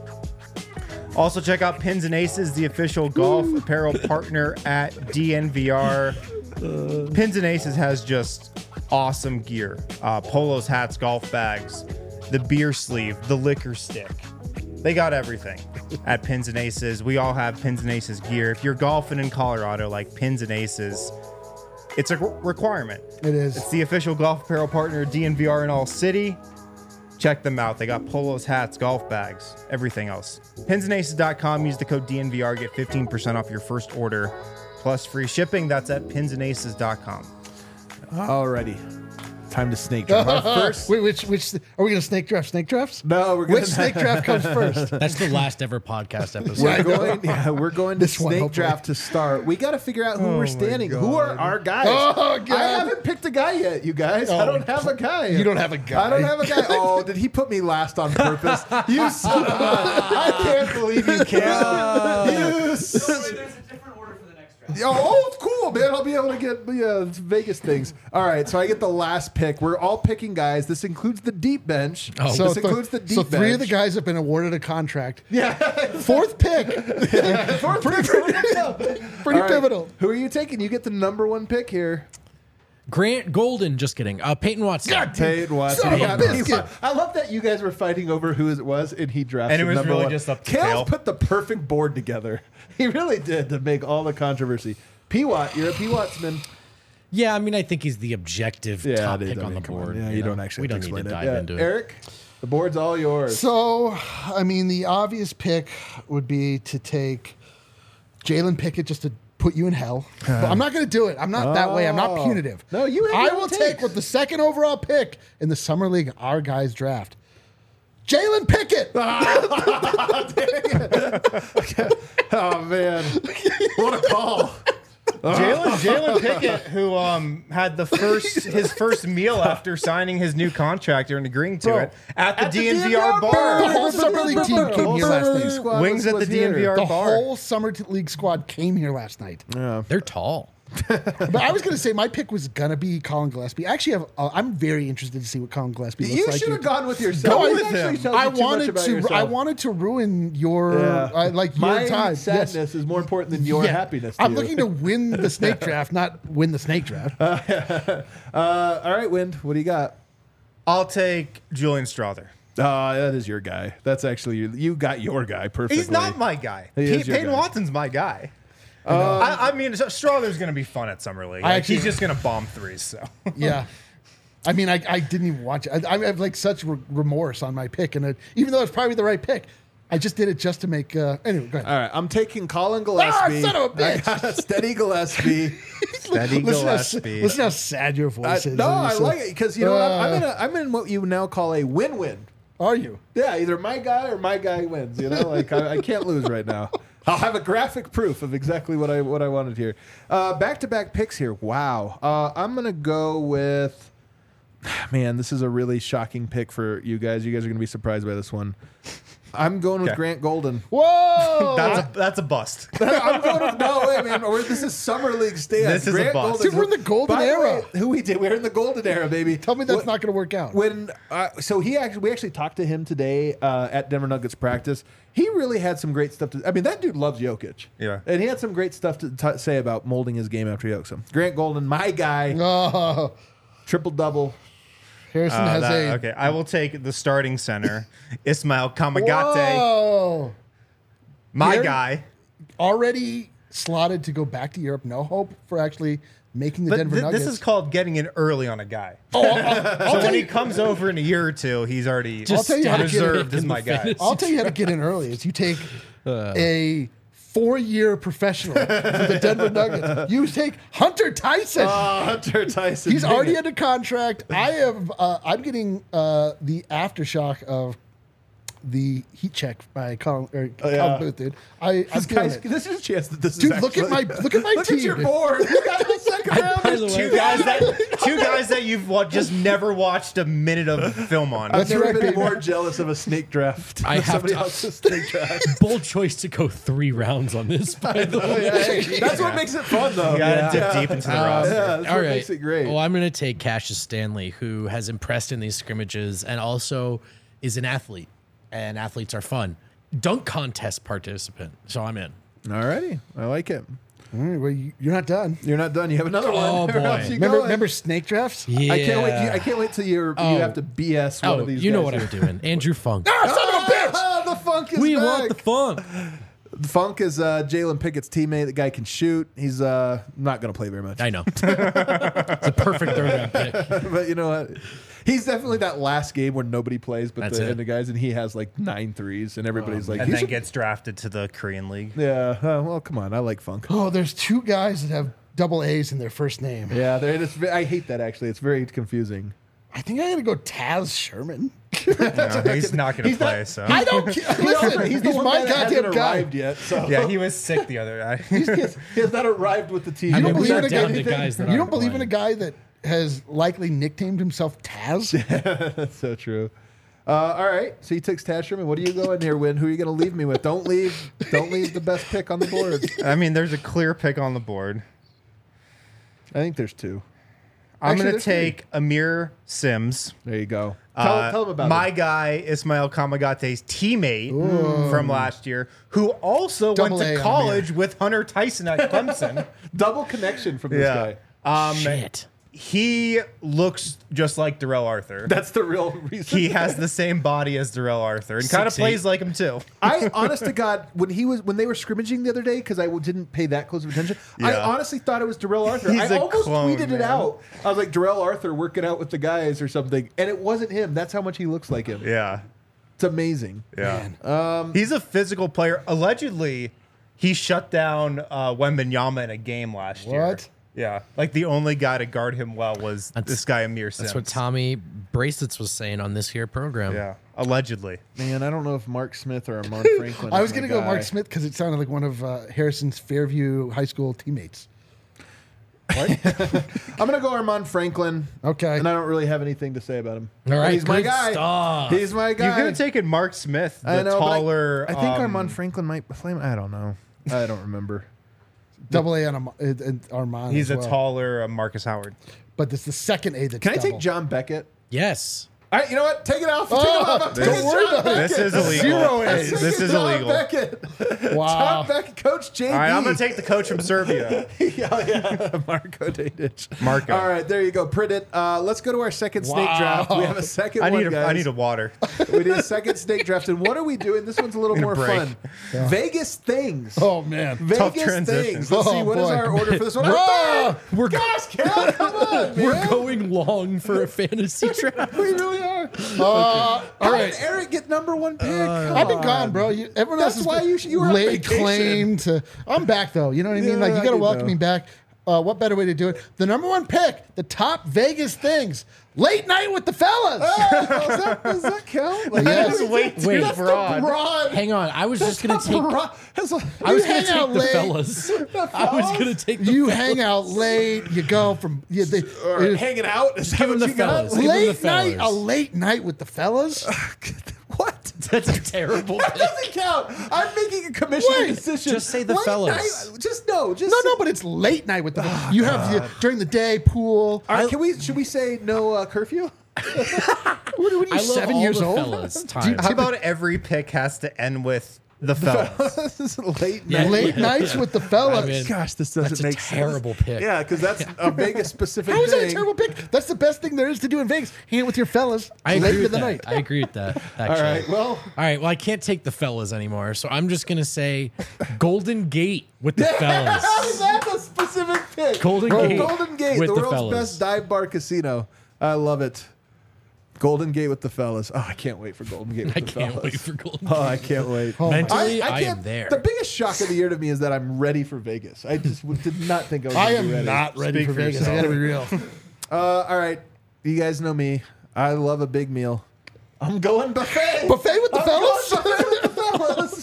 C: Also check out Pins and Aces, the official golf apparel partner at D N V R. Pins and Aces has just awesome gear. Uh, polos, hats, golf bags, the beer sleeve, the liquor stick. They got everything at Pins and Aces. We all have Pins and Aces gear. If you're golfing in Colorado, like Pins and Aces, it's a re- requirement.
D: It is.
C: It's the official golf apparel partner of D N V R in all city. Check them out. They got polos, hats, golf bags, everything else. pins and aces dot com. Use the code D N V R. Get fifteen percent off your first order plus free shipping. That's at pins and aces dot com.
A: Alrighty. Time to snake draft. Our first.
D: Wait, which which are we gonna snake draft? Snake drafts?
A: No, we're going
D: Which snake draft comes first?
B: That's the last ever podcast episode.
A: We're going, yeah, we're going to
D: This one,
A: snake
D: hopefully.
A: draft to start. We got to figure out who
C: Oh
A: we're
C: my
A: standing. Who are
C: God.
A: our guys?
D: Oh, God.
A: I haven't picked a guy yet, you guys. I
D: Oh,
A: don't have a guy.
D: you don't have a guy.
A: I don't have a guy. Oh, did he put me last on purpose? You son of a... I can't believe you can. You son-
E: There's a different order for the next draft.
A: Oh, cool, man. I'll be able to get yeah, Vegas things. All right, so I get the last pick. We're all picking guys. This includes the deep bench.
B: Oh.
D: So
A: this
D: th-
A: includes the deep
D: so
A: bench.
D: three of the guys have been awarded a contract.
A: Yeah.
D: Fourth pick,
A: Fourth pick.
D: pretty
A: All right,
D: pivotal.
A: Who are you taking? You get the number one pick here.
B: Grant Golden, just kidding. Uh, Peyton Watson.
D: God
A: Peyton Watson.
D: Son of a
A: Yeah,
D: biscuit.
A: I love that you guys were fighting over who it was, and he drafted
C: And it was
A: number
C: really
A: one.
C: just up to
A: Kale's
C: Kale.
A: put the perfect board together. He really did to make all the controversy. P Watt, you're a P Wattsman.
B: Yeah, I mean, I think he's the objective
A: Yeah,
B: top
A: they
B: pick
A: don't-
B: on the
A: come on.
B: board.
A: Yeah, you,
B: know?
A: don't actually
B: We don't
A: have to
B: need to
A: explain
B: dive
A: it.
B: into
A: Yeah.
B: it.
A: Eric, the board's all yours.
D: So, I mean, the obvious pick would be to take Jalen Pickett just to put you in hell. But I'm not going to do it. I'm not that way. I'm not
A: Oh.
D: punitive.
A: No, you have
D: I
A: your own
D: will
A: takes.
D: take with the second overall pick in the Summer League, our guys draft. Jalen Pickett.
A: Oh man, what a call!
C: Jalen Jalen Pickett, who um had the first his first meal after signing his new contract and agreeing to
A: Bro,
C: it at the
A: at the
C: D N V R
A: D N V R
C: bar.
D: The whole summer league team came
A: Whole
D: here
A: summer
D: last
A: league
D: night.
A: squad
C: Wings
A: was-
C: at the
A: was
C: D N V R
A: here.
D: The
C: bar.
D: whole Summer t- League squad came here last night.
B: They're tall.
D: But I was going to say my pick was going to be Colin Gillespie. Actually, have, uh, I'm very interested to see what Colin Gillespie looks
A: You
D: like.
A: should have
D: here.
A: gone with yourself.
D: Go
A: It
D: with
A: actually
C: him.
A: tells
D: I
A: you too much
D: wanted
A: about
D: to.
A: yourself.
D: I wanted to ruin your
A: Yeah.
D: uh, like
A: My
D: your time.
A: sadness
D: Yes.
A: is more important than your
D: Yeah.
A: happiness. To
D: I'm
A: you.
D: looking to win the snake draft, not win the snake draft.
A: Uh, all right, Wind. What do you got?
C: I'll take Julian Strother.
A: Uh, that is your guy. That's actually you. You got your guy perfectly.
C: He's not my guy.
A: He is
C: P-
A: your
C: Peyton
A: guy.
C: Watson's my guy. I, I mean, Strother's going to be fun at Summer League.
D: I
C: Like,
D: actually-
C: he's just going to bomb threes. So
D: Yeah. I mean, I, I didn't even watch it. I, I have like such re- remorse on my pick, and it, even though it's probably the right pick, I just did it just to make. Uh, anyway, go ahead.
A: All right, I'm taking Colin Gillespie.
D: Ah, son of a
A: I
D: bitch.
A: got Steady Gillespie.
C: Steady
D: listen, how,
C: Gillespie.
D: listen how sad your voice
A: I,
D: is.
A: no,
D: when you
A: I
D: say-
A: like it because you know what? I'm, I'm
D: Uh,
A: in a, I'm in what you now call a win-win.
D: Are you?
A: Yeah, either my guy or my guy wins. You know, like I, I can't lose right now. I'll have a graphic proof of exactly what I what I wanted here. Uh, back-to-back picks here. Wow. Uh, I'm gonna go with. Man, this is a really shocking pick for you guys. You guys are gonna be surprised by this one. I'm going with
C: Okay.
A: Grant Golden.
D: Whoa!
C: that's a that's a bust.
A: I'm going with no way, man. We're, this is summer league stand.
C: This is a
A: Grant
C: bust.
A: Golden,
D: Dude, we're in the golden
A: by the
D: era.
A: way, who we did? We're in the golden era, baby.
D: Tell me that's
A: What-
D: not going to work out.
A: When uh, so he actually we actually talked to him today uh, at Denver Nuggets practice. He really had some great stuff to. I mean, that dude loves Jokic.
C: Yeah.
A: and he had some great stuff to t- say about molding his game after he hooked him. Grant Golden, my guy,
D: Oh,
A: triple double.
D: Harrison
C: Uh,
D: has
C: that-
D: a.
C: okay, I will take the starting center, Ismail Kamagate,
D: Whoa.
C: my
D: Here?
C: guy.
D: Already slotted to go back to Europe. No hope for actually making the
C: But
D: Denver
C: thi-
D: Nuggets.
C: this is called getting in early on a guy.
D: oh, I'll, I'll, I'll
C: So
D: tell
C: when he
D: you,
C: comes over in a year or two, he's already
D: I'll tell you how to get
C: reserved
B: in
C: as
B: the
C: my guy.
B: fantasy
D: I'll tell you how to get in early. Is you take a four-year professional for the Denver Nuggets. You take Hunter Tyson.
A: Uh, Hunter Tyson.
D: He's
A: dang
D: already
A: it.
D: under contract. I have. Uh, I'm getting uh, the aftershock of the heat check by Colin, or
A: Oh, yeah.
D: Colin Booth, dude. I, I'm
A: This,
D: feeling
A: guy's,
D: it.
A: this is a chance that this
D: Dude,
A: is
D: look at
A: actually-
D: my- look at my
A: look
D: team,
A: at your
D: dude.
A: board. You got the second round.
B: By the way,
C: Two guys that two guys that you've what, just never watched a minute of film on.
A: I've
D: That's
A: never
D: right,
A: been
D: baby.
A: more jealous of a snake draft.
B: I
A: than
B: have
A: somebody
B: to-
A: else's snake draft.
B: Bold choice to go three rounds on this, by the way.
A: Hey, that's what makes it fun, though.
C: You gotta
A: Yeah.
C: dip deep into the
B: Um,
C: roster.
A: Yeah, that's
B: All
A: what
B: right.
A: makes it great.
B: Well, I'm going to take Cassius Stanley, who has impressed in these scrimmages and also is an athlete, and athletes are fun. Dunk contest participant. So I'm in.
A: Alrighty, I like it.
D: All right, well, you, you're not done.
A: You're not done. You have another one.
B: Oh,
A: Where
B: boy.
A: else you
D: Remember,
A: going?
D: remember snake drafts?
B: Yeah.
A: I can't wait. I can't wait till you're,
B: Oh.
A: you have to B S one
B: Oh,
A: of these.
B: you know
A: guys
B: what
A: here.
B: I'm doing. Andrew Funk.
D: Ah, son of a bitch!
A: Ah, the Funk is
B: we
A: back.
B: want the funk.
A: Funk is uh, Jalen Pickett's teammate. The guy can shoot. He's uh, not going to play very much.
B: I know. It's a perfect third round pick.
A: But you know what? He's definitely that last game where nobody plays but
B: That's
A: the,
B: it.
A: and the guys, and he has like nine threes, and everybody's like,
C: and
A: he
C: then
A: should-
C: gets drafted to the Korean League.
A: yeah. Uh, well, come on. I like Funk.
D: Oh, there's two guys that have double A's in their first name.
A: Yeah, they're just, I hate that actually. It's very confusing.
D: I think I gotta go Taz Sherman.
C: No, he's not going to
A: He's
C: play.
A: not-
C: so
D: I don't care. Listen,
A: He's
D: he's,
A: the one
D: my
A: that hasn't
D: goddamn guy.
A: arrived yet. So
C: yeah, he was sick the other night.
A: he, has, he has not arrived with the team.
B: I
D: You
B: mean,
D: don't
B: we
D: believe
B: are
D: in a
B: down
D: guy
B: to guys that
D: You don't
B: aren't
D: believe in a
B: playing.
D: guy that has likely nicknamed himself Taz?
A: That's so true. Uh, all right, so he takes Taz Sherman. What are you going here, Win? Who are you going to leave me with? Don't leave. Don't leave the best pick on the board.
C: I mean, there's a clear pick on the board.
A: I think there's two.
C: I'm
A: Actually,
C: going to
A: there's three.
C: take Amir Sims.
A: There you go. Tell,
C: Uh,
A: tell him about
C: my
A: it.
C: guy, Ismail Kamagate's teammate from last year, who also
D: Double
C: went
D: A
C: to
D: on
C: college with Hunter Tyson at Clemson.
A: Double connection from this guy.
C: Um,
B: Shit.
C: he looks just like Darrell Arthur.
A: That's the real reason.
C: He has the same body as Darrell Arthur and kind of
B: Six,
C: plays
B: eight.
C: like him too.
A: I honest to God, when he was when they were scrimmaging the other day, because I w- didn't pay that close of attention, I
C: Yeah.
A: honestly thought it was Darrell Arthur.
C: He's
A: I
C: a
A: almost
C: clone,
A: tweeted it
C: man.
A: out. I was like, Darrell Arthur working out with the guys or something, and it wasn't him. That's how much he looks like him.
C: Yeah.
A: It's amazing.
C: Yeah.
A: Um,
C: He's a physical player. Allegedly, he shut down uh, Wembanyama in a game last year.
D: What?
C: Yeah. Like the only guy to guard him well was
B: That's-
C: this guy Amir Sims.
B: That's what Tommy Bracelets was saying on this here program.
C: Yeah. Allegedly.
A: Man, I don't know if Mark Smith or Armand Franklin.
D: I
A: is
D: was
A: my
D: going to go
A: guy.
D: Mark Smith because it sounded like one of uh, Harrison's Fairview High School teammates.
A: I'm gonna go Armand Franklin.
D: Okay.
A: And I don't really have anything to say about him.
B: All right,
A: he's my
B: good
A: guy.
B: stuff.
A: He's my guy.
C: You could have taken Mark Smith, the
A: I know, but I-
C: taller.
A: I, think
C: um,
A: Armand Franklin might play. I don't know. I don't remember.
D: Double A on Am- uh, uh, Armand.
C: He's
D: as
C: a
D: well.
C: taller uh, Marcus Howard.
D: But it's the second A that's
A: Can I
D: double.
A: take John Beckett?
B: Yes.
A: All right, you know what? Take it off. Take
D: Oh,
A: it off. I'm
D: don't
A: taking
D: worry
A: John
D: about it.
A: Beckett.
C: This is illegal.
D: Zero
A: I'm
D: A's.
A: taking
C: This is
A: John
C: illegal.
A: Beckett.
D: Wow.
A: John Beckett, Coach J D.
C: All right, I'm going to take the coach from Serbia.
A: yeah, yeah. Marco Dadic.
C: Marco.
A: All right, there you go. Print it. Uh, let's go to our second snake
D: Wow.
A: draft. We have a second
C: I
A: one,
C: need a,
A: guys.
C: I need a water.
A: We need a second snake draft. And what are we doing? This one's a little
C: Need a
A: more
C: break.
A: fun. Vegas things.
D: Oh, man.
C: Tough
A: Vegas
C: transition.
A: things. Let's see,
D: Oh,
A: what is
D: boy.
A: our order for this one?
D: Ah,
B: We're
A: Gosh, Cal, come on, man.
B: We're going long for a fantasy draft.
A: We really are.
D: Uh, all
A: How
D: right.
A: did Eric get number one pick? Come
D: I've been
A: on.
D: gone, bro. You, everyone
A: That's
D: else has
A: why
D: been
A: you sh- you were on
D: laid
A: vacation.
D: claim to. I'm back though. You know what I mean?
A: Yeah,
D: like you
A: I
D: got to
A: get
D: welcome
A: that.
D: me back. Uh, what better way to do it? The number one pick, the top Vegas things, late night with the fellas.
A: Oh, does, that, does that count? Like,
D: Yes.
C: That's way too
B: Wait.
A: That's the
C: broad.
A: broad.
B: Hang on. I was just going to take.
A: Broad. That's a-
B: I was
D: You
B: going to
D: hang out
B: take the
D: late.
B: fellas. I was going to take the
D: You
B: fellas.
D: hang out late. You go from you, they,
A: Or
D: it-
A: hanging out. Is that
B: give him
A: what
B: the
A: you got?
B: fellas. Give him the
D: late night.
B: fellas.
D: A late night with the fellas.
A: What?
B: That's a terrible
A: That
B: pick.
A: doesn't count. I'm making a commission
D: Wait,
A: decision.
B: just say the
A: Late
B: fellas.
A: night- just no. Just
D: No,
A: say-
D: no, but it's late night with the. you have the, during the day pool.
A: All right, can we? Should we say no uh, curfew?
D: What, what are you,
B: I love
D: seven
B: all
D: years
B: the
D: old?
B: fellas.
D: Do you-
B: Times.
C: How about every pick has to end with the fellas?
A: this is late
B: Yeah.
A: night.
D: Late nights with the fellas.
B: I mean,
A: Gosh, this doesn't
B: That's a
A: make
B: terrible
A: sense.
B: pick.
A: Yeah, because that's a Vegas specific
D: How is that
A: thing.
D: a terrible pick? That's the best thing there is to do in Vegas. Hang out with your fellas
B: I
D: late
B: agree
D: into
B: with
D: the
B: that.
D: night.
B: I agree with that.
A: All
B: Actually.
A: right. Well,
B: All right. Well, I can't take the fellas anymore, so I'm just gonna say Golden Gate with the fellas.
A: that's a specific pick.
B: Golden
A: Bro,
B: Gate
A: Golden Gate,
B: with
A: the
B: the
A: world's
B: fellas.
A: best dive bar casino. I love it. Golden Gate with the fellas. Oh, I can't wait for Golden Gate with
B: I
A: the
B: can't
A: fellas.
B: wait for Golden
A: Oh,
B: Gate.
A: I can't wait.
B: Mentally, I,
A: can't-
B: am there.
A: The biggest shock of the year to me is that I'm ready for Vegas. I just w- did not think I was.
D: I
A: gonna be
D: am
A: ready.
D: not ready
C: Speak
D: for
C: for
D: Vegas. I
C: yourself.
D: gotta be real.
A: Uh, all right, you guys know me. I love a big meal. I'm going buffet.
D: Buffet with the
A: I'm
D: fellas?
A: Going buffet with the fellas.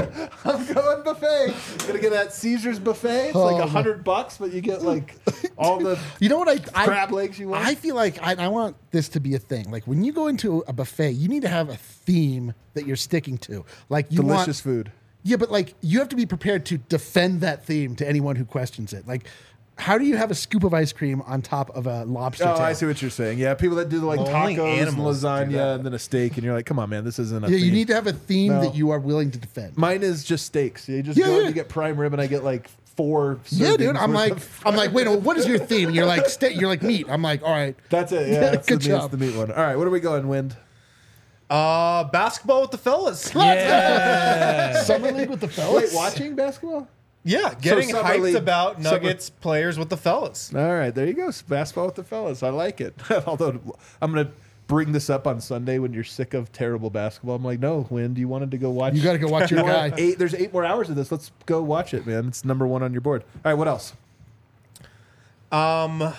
A: I'm going buffet. Gonna get that Caesar's buffet. It's like
D: Oh,
A: a hundred bucks, but you get like all the
D: You know what I I,
A: crab legs you want.
D: I feel like I, I want this to be a thing. Like when you go into a buffet, you need to have a theme that you're sticking to. Like you
A: Delicious
D: want,
A: food.
D: Yeah, but like you have to be prepared to defend that theme to anyone who questions it. Like how do you have a scoop of ice cream on top of a lobster
A: Oh,
D: tail?
A: I see what you're saying. Yeah, people that do the like
C: Well, only
A: tacos and
C: animals do that.
A: lasagna and then a steak, and you're like, come on, man, this isn't a
D: Yeah,
A: theme.
D: you need to have a theme
A: No.
D: that you are willing to defend.
A: Mine is just steaks. You just
D: Yeah,
A: go
D: yeah.
A: and you get prime rib, and I get like four.
D: Yeah, dude.
A: servings
D: I'm
A: worth
D: like,
A: of-
D: I'm like, wait, no, what is your theme? And you're like, steak. You're like meat. I'm like, all right.
A: that's it. Yeah, that's
D: Good
A: the, meat,
D: job.
A: the meat one. All right, what are we going, Wind?
C: Uh, basketball with the fellas.
D: Summer league with the fellas.
A: Wait, watching basketball?
C: Yeah, getting
A: Summer
C: hyped
A: League-
C: about
A: Summer-
C: Nuggets players with the fellas.
A: All right, there you go. Basketball with the fellas. I like it. Although I'm gonna bring this up on Sunday when you're sick of terrible basketball. I'm like, no, Wind, you wanted to go watch.
D: You got to go watch your
A: You want
D: guy.
A: Eight. There's eight more hours of this. Let's go watch it, man. It's number one on your board. All right, what else?
C: Um,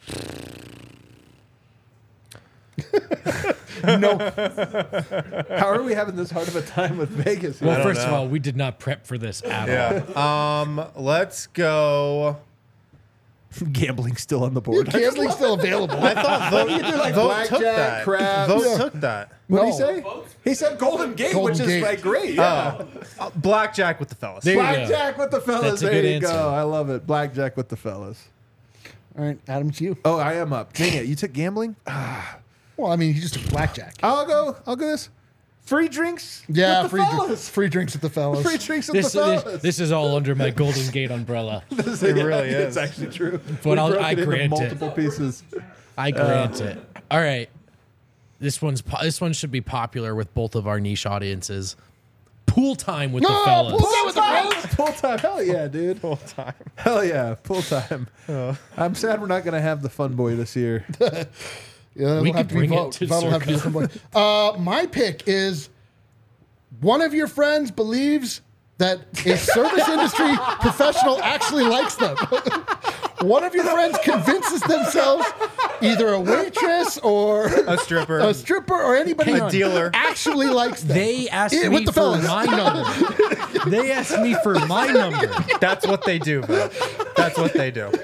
D: No,
A: How are we having this hard of a time with Vegas?
B: Well,
C: don't
B: first of
C: know.
B: all, we did not prep for this at all.
C: yeah. um, let's go.
A: Gambling's still on the
D: your
A: board.
D: gambling's still available.
C: I thought Vote,
A: like
C: Vote
A: blackjack,
C: took that.
A: craps.
C: Vote
A: Yeah.
C: took that.
A: What did he
D: No.
A: say? He said Golden Gate,
D: Golden
A: which is
D: Gate.
A: like great. Yeah.
C: Uh, blackjack with the fellas.
B: There you go.
A: Blackjack with the fellas.
B: That's a
A: there
B: good
A: you
B: answer.
A: go. I love it. Blackjack with the fellas.
D: All right, Adam, it's you.
A: Oh, I am up. Dang it! You took gambling.
D: Well, I mean, he just took blackjack.
A: I'll go. I'll go this. Free drinks.
D: Yeah,
A: with the
D: free, dr-
A: fellas.
D: free drinks with the fellas.
A: Free drinks with
B: This,
A: the
B: this,
A: fellas.
B: this is all under my Golden Gate umbrella.
A: This
C: It
A: yeah,
C: really
A: It's
C: is.
A: actually true.
B: But
A: We
B: I'll-
A: broke
B: I
A: it into
B: grant it.
A: multiple pieces.
B: I grant it. All right. This one's po- this one should be popular with both of our niche audiences. Pool time with
D: No,
B: the fellas.
D: pool time with the fellas.
A: Full time. Hell yeah, dude.
C: Full time.
A: Hell yeah. Full time. I'm sad we're not going to have the fun boy this year.
D: Yeah,
B: We
D: it'll have
B: could
D: to be
B: bring it
D: vote.
B: to
D: Vote will have to be
B: Circa.
D: some point. Uh, my pick is one of your friends believes that a service industry professional actually likes them. One of your friends convinces themselves either a waitress or
C: A stripper.
D: a stripper or anybody
C: A dealer.
D: actually likes them.
B: They asked
D: Yeah,
B: me
D: with the
B: for
D: fellas.
B: my number. They asked me for my number.
C: That's what they do, bro. That's what they do.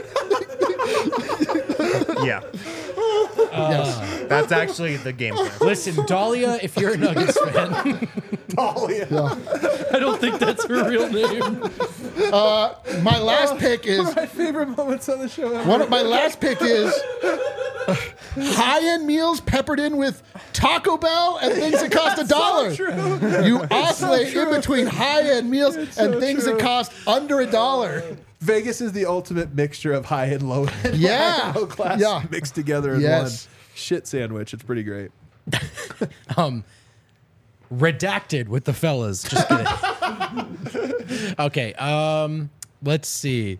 C: Yeah.
D: Yes.
C: That's actually the game plan.
B: Listen, Dahlia, if you're a Nuggets fan,
A: Oh, yeah.
B: I don't think that's her real name.
D: My last pick is
A: My favorite moments on the show ever.
D: one of my last pick is high-end meals peppered in with Taco Bell and things that cost a dollar. You oscillate in between high-end meals and
A: so
D: things
A: true.
D: that cost under a dollar.
A: Vegas is the ultimate mixture of high and low end.
D: Yeah.
A: Low class
D: Yeah.
A: mixed together in
D: Yes.
A: one shit sandwich. It's pretty great.
B: Redacted with the fellas. Just kidding. Okay, um, let's see.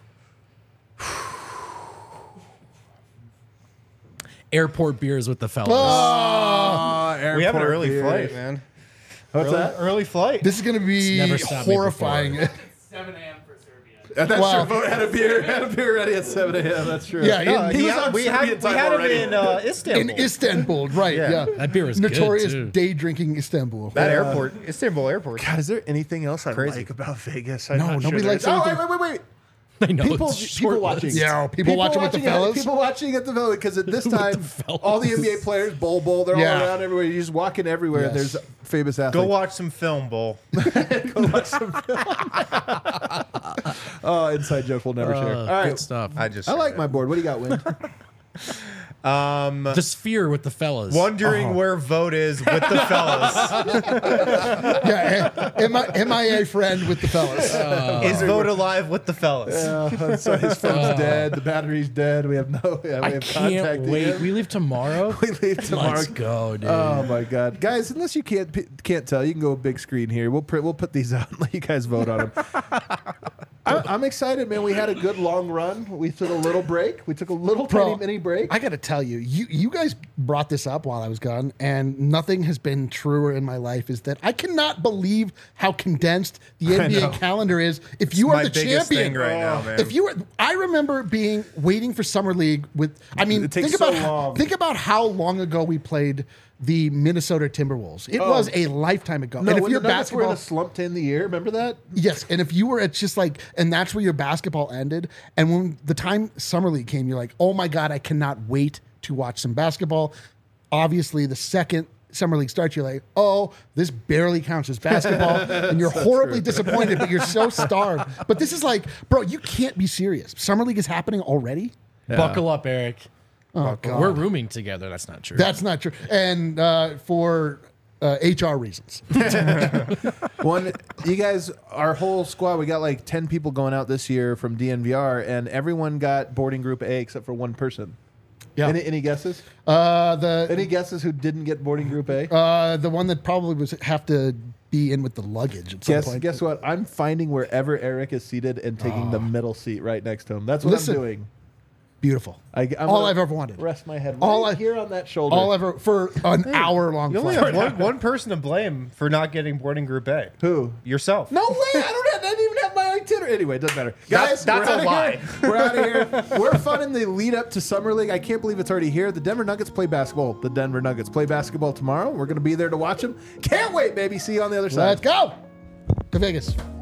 B: Airport beers with the fellas.
A: Oh,
C: We have an
A: airport
C: early
A: beers.
C: flight, man.
A: What's
C: Early,
A: that?
C: early flight.
D: This is going to be
B: never stopped me
D: horrifying.
E: seven a.m. for Serbia.
A: Uh, That's
D: Wow.
A: true. Vote had a beer. Had a beer ready at seven a.m. That's true.
D: Yeah,
C: No,
D: he
C: he
A: was
C: had-
A: on
C: we
A: Serbian
C: had, we
A: time
C: had him
A: already.
C: in uh,
D: in
C: Istanbul.
D: Istanbul, right?
C: Yeah.
D: Yeah,
B: That beer was good,
D: notorious
B: too.
D: day drinking Istanbul.
C: that airport, Istanbul airport.
A: God, is there anything else I
C: Crazy.
A: like about Vegas?
D: No,
A: I'm not
D: nobody
A: sure
D: likes
A: there is. Oh, wait,
D: anything.
A: wait, wait, wait.
B: I know
A: People,
B: it's
A: people
B: short
A: watching.
B: list.
D: Yeah, people watching with the
A: at-
D: fellas.
A: People watching at the fellas because at this
B: With the
A: time,
B: fellas.
A: all the N B A players, bowl bowl, they're
D: Yeah.
A: all around everywhere. You're just walking everywhere.
D: Yes.
A: There's famous athletes.
C: Go watch some film, Bull.
A: Oh, inside joke we'll never share.
B: Uh,
A: All right,
B: Good stuff.
C: I just
A: I like my board. What do you got, Win?
B: The sphere with the fellas.
C: wondering where vote is with the fellas.
D: Yeah, M I M I A friend with the fellas.
C: is vote alive with the fellas?
A: Uh, so his phone's dead. The battery's dead. We have no. Yeah, we
B: I
A: have
B: can't
A: contacting
B: wait.
A: him.
B: We leave tomorrow.
A: We leave tomorrow.
B: Let's go, dude.
A: Oh my god, guys! Unless you can't p- can't tell, you can go big screen here. We'll print, we'll put these out and let you guys vote on them. I, I'm excited, man. We had a good long run. We took a little break. We took a little
D: Bro,
A: tiny mini break.
D: I got to tell you, you you guys brought this up while I was gone, and nothing has been truer in my life. Is that I cannot believe how condensed the N B A
A: know.
D: calendar is. If you are
C: my
D: the
C: biggest
D: champion
C: thing right now, man.
D: If you were, I remember being waiting for summer league with. I mean,
A: It takes
D: think about
A: so
D: how,
A: long.
D: think about how long ago we played the Minnesota Timberwolves. It
A: Oh.
D: was a lifetime ago.
A: no,
D: and if
A: when
D: you're
A: the Nuggets were in
D: basketball,
A: a slump to end the year, remember that?
D: yes, and if you were at just like, and that's where your basketball ended. And when the time summer league came, you're like, oh my god, I cannot wait to watch some basketball. Obviously, the second Summer League starts, you're like, oh, this barely counts as basketball. And you're horribly disappointed, but you're so starved. But this is like, bro, you can't be serious. Summer League is happening already?
B: Buckle up, Eric.
D: Oh, God.
B: We're rooming together. That's not true.
D: That's not true. And uh, for uh, H R reasons.
A: One, you guys, our whole squad, we got like ten people going out this year from D N V R, and everyone got boarding group A except for one person.
D: Yeah.
A: Any, any guesses?
D: Uh, the
A: Any guesses who didn't get boarding group A?
D: uh, the one that probably was have to be in with the luggage at some
A: Guess,
D: point.
A: guess what? I'm finding wherever Eric is seated and taking the middle seat right next to him. That's what
D: Listen,
A: I'm doing.
D: Beautiful.
A: I, I'm
D: All
A: gonna
D: I've ever wanted.
A: Rest my head
D: All
A: right
D: I-
A: here on that shoulder.
D: All ever for an hour long
C: You only
D: flight.
C: have one, one person to blame for not getting boarding group A.
A: Who?
C: Yourself.
A: No way! I don't have. I didn't even have my itinerary. Anyway, it doesn't matter. Guys,
C: That's- that's
A: we're
C: a
A: outta
C: lie.
A: Here. We're out of here. We're fun in the lead up to Summer League. I can't believe it's already here. The Denver Nuggets play basketball. The Denver Nuggets play basketball tomorrow. We're going to be there to watch them. Can't wait, baby. See you on the other side.
D: Let's go to Vegas.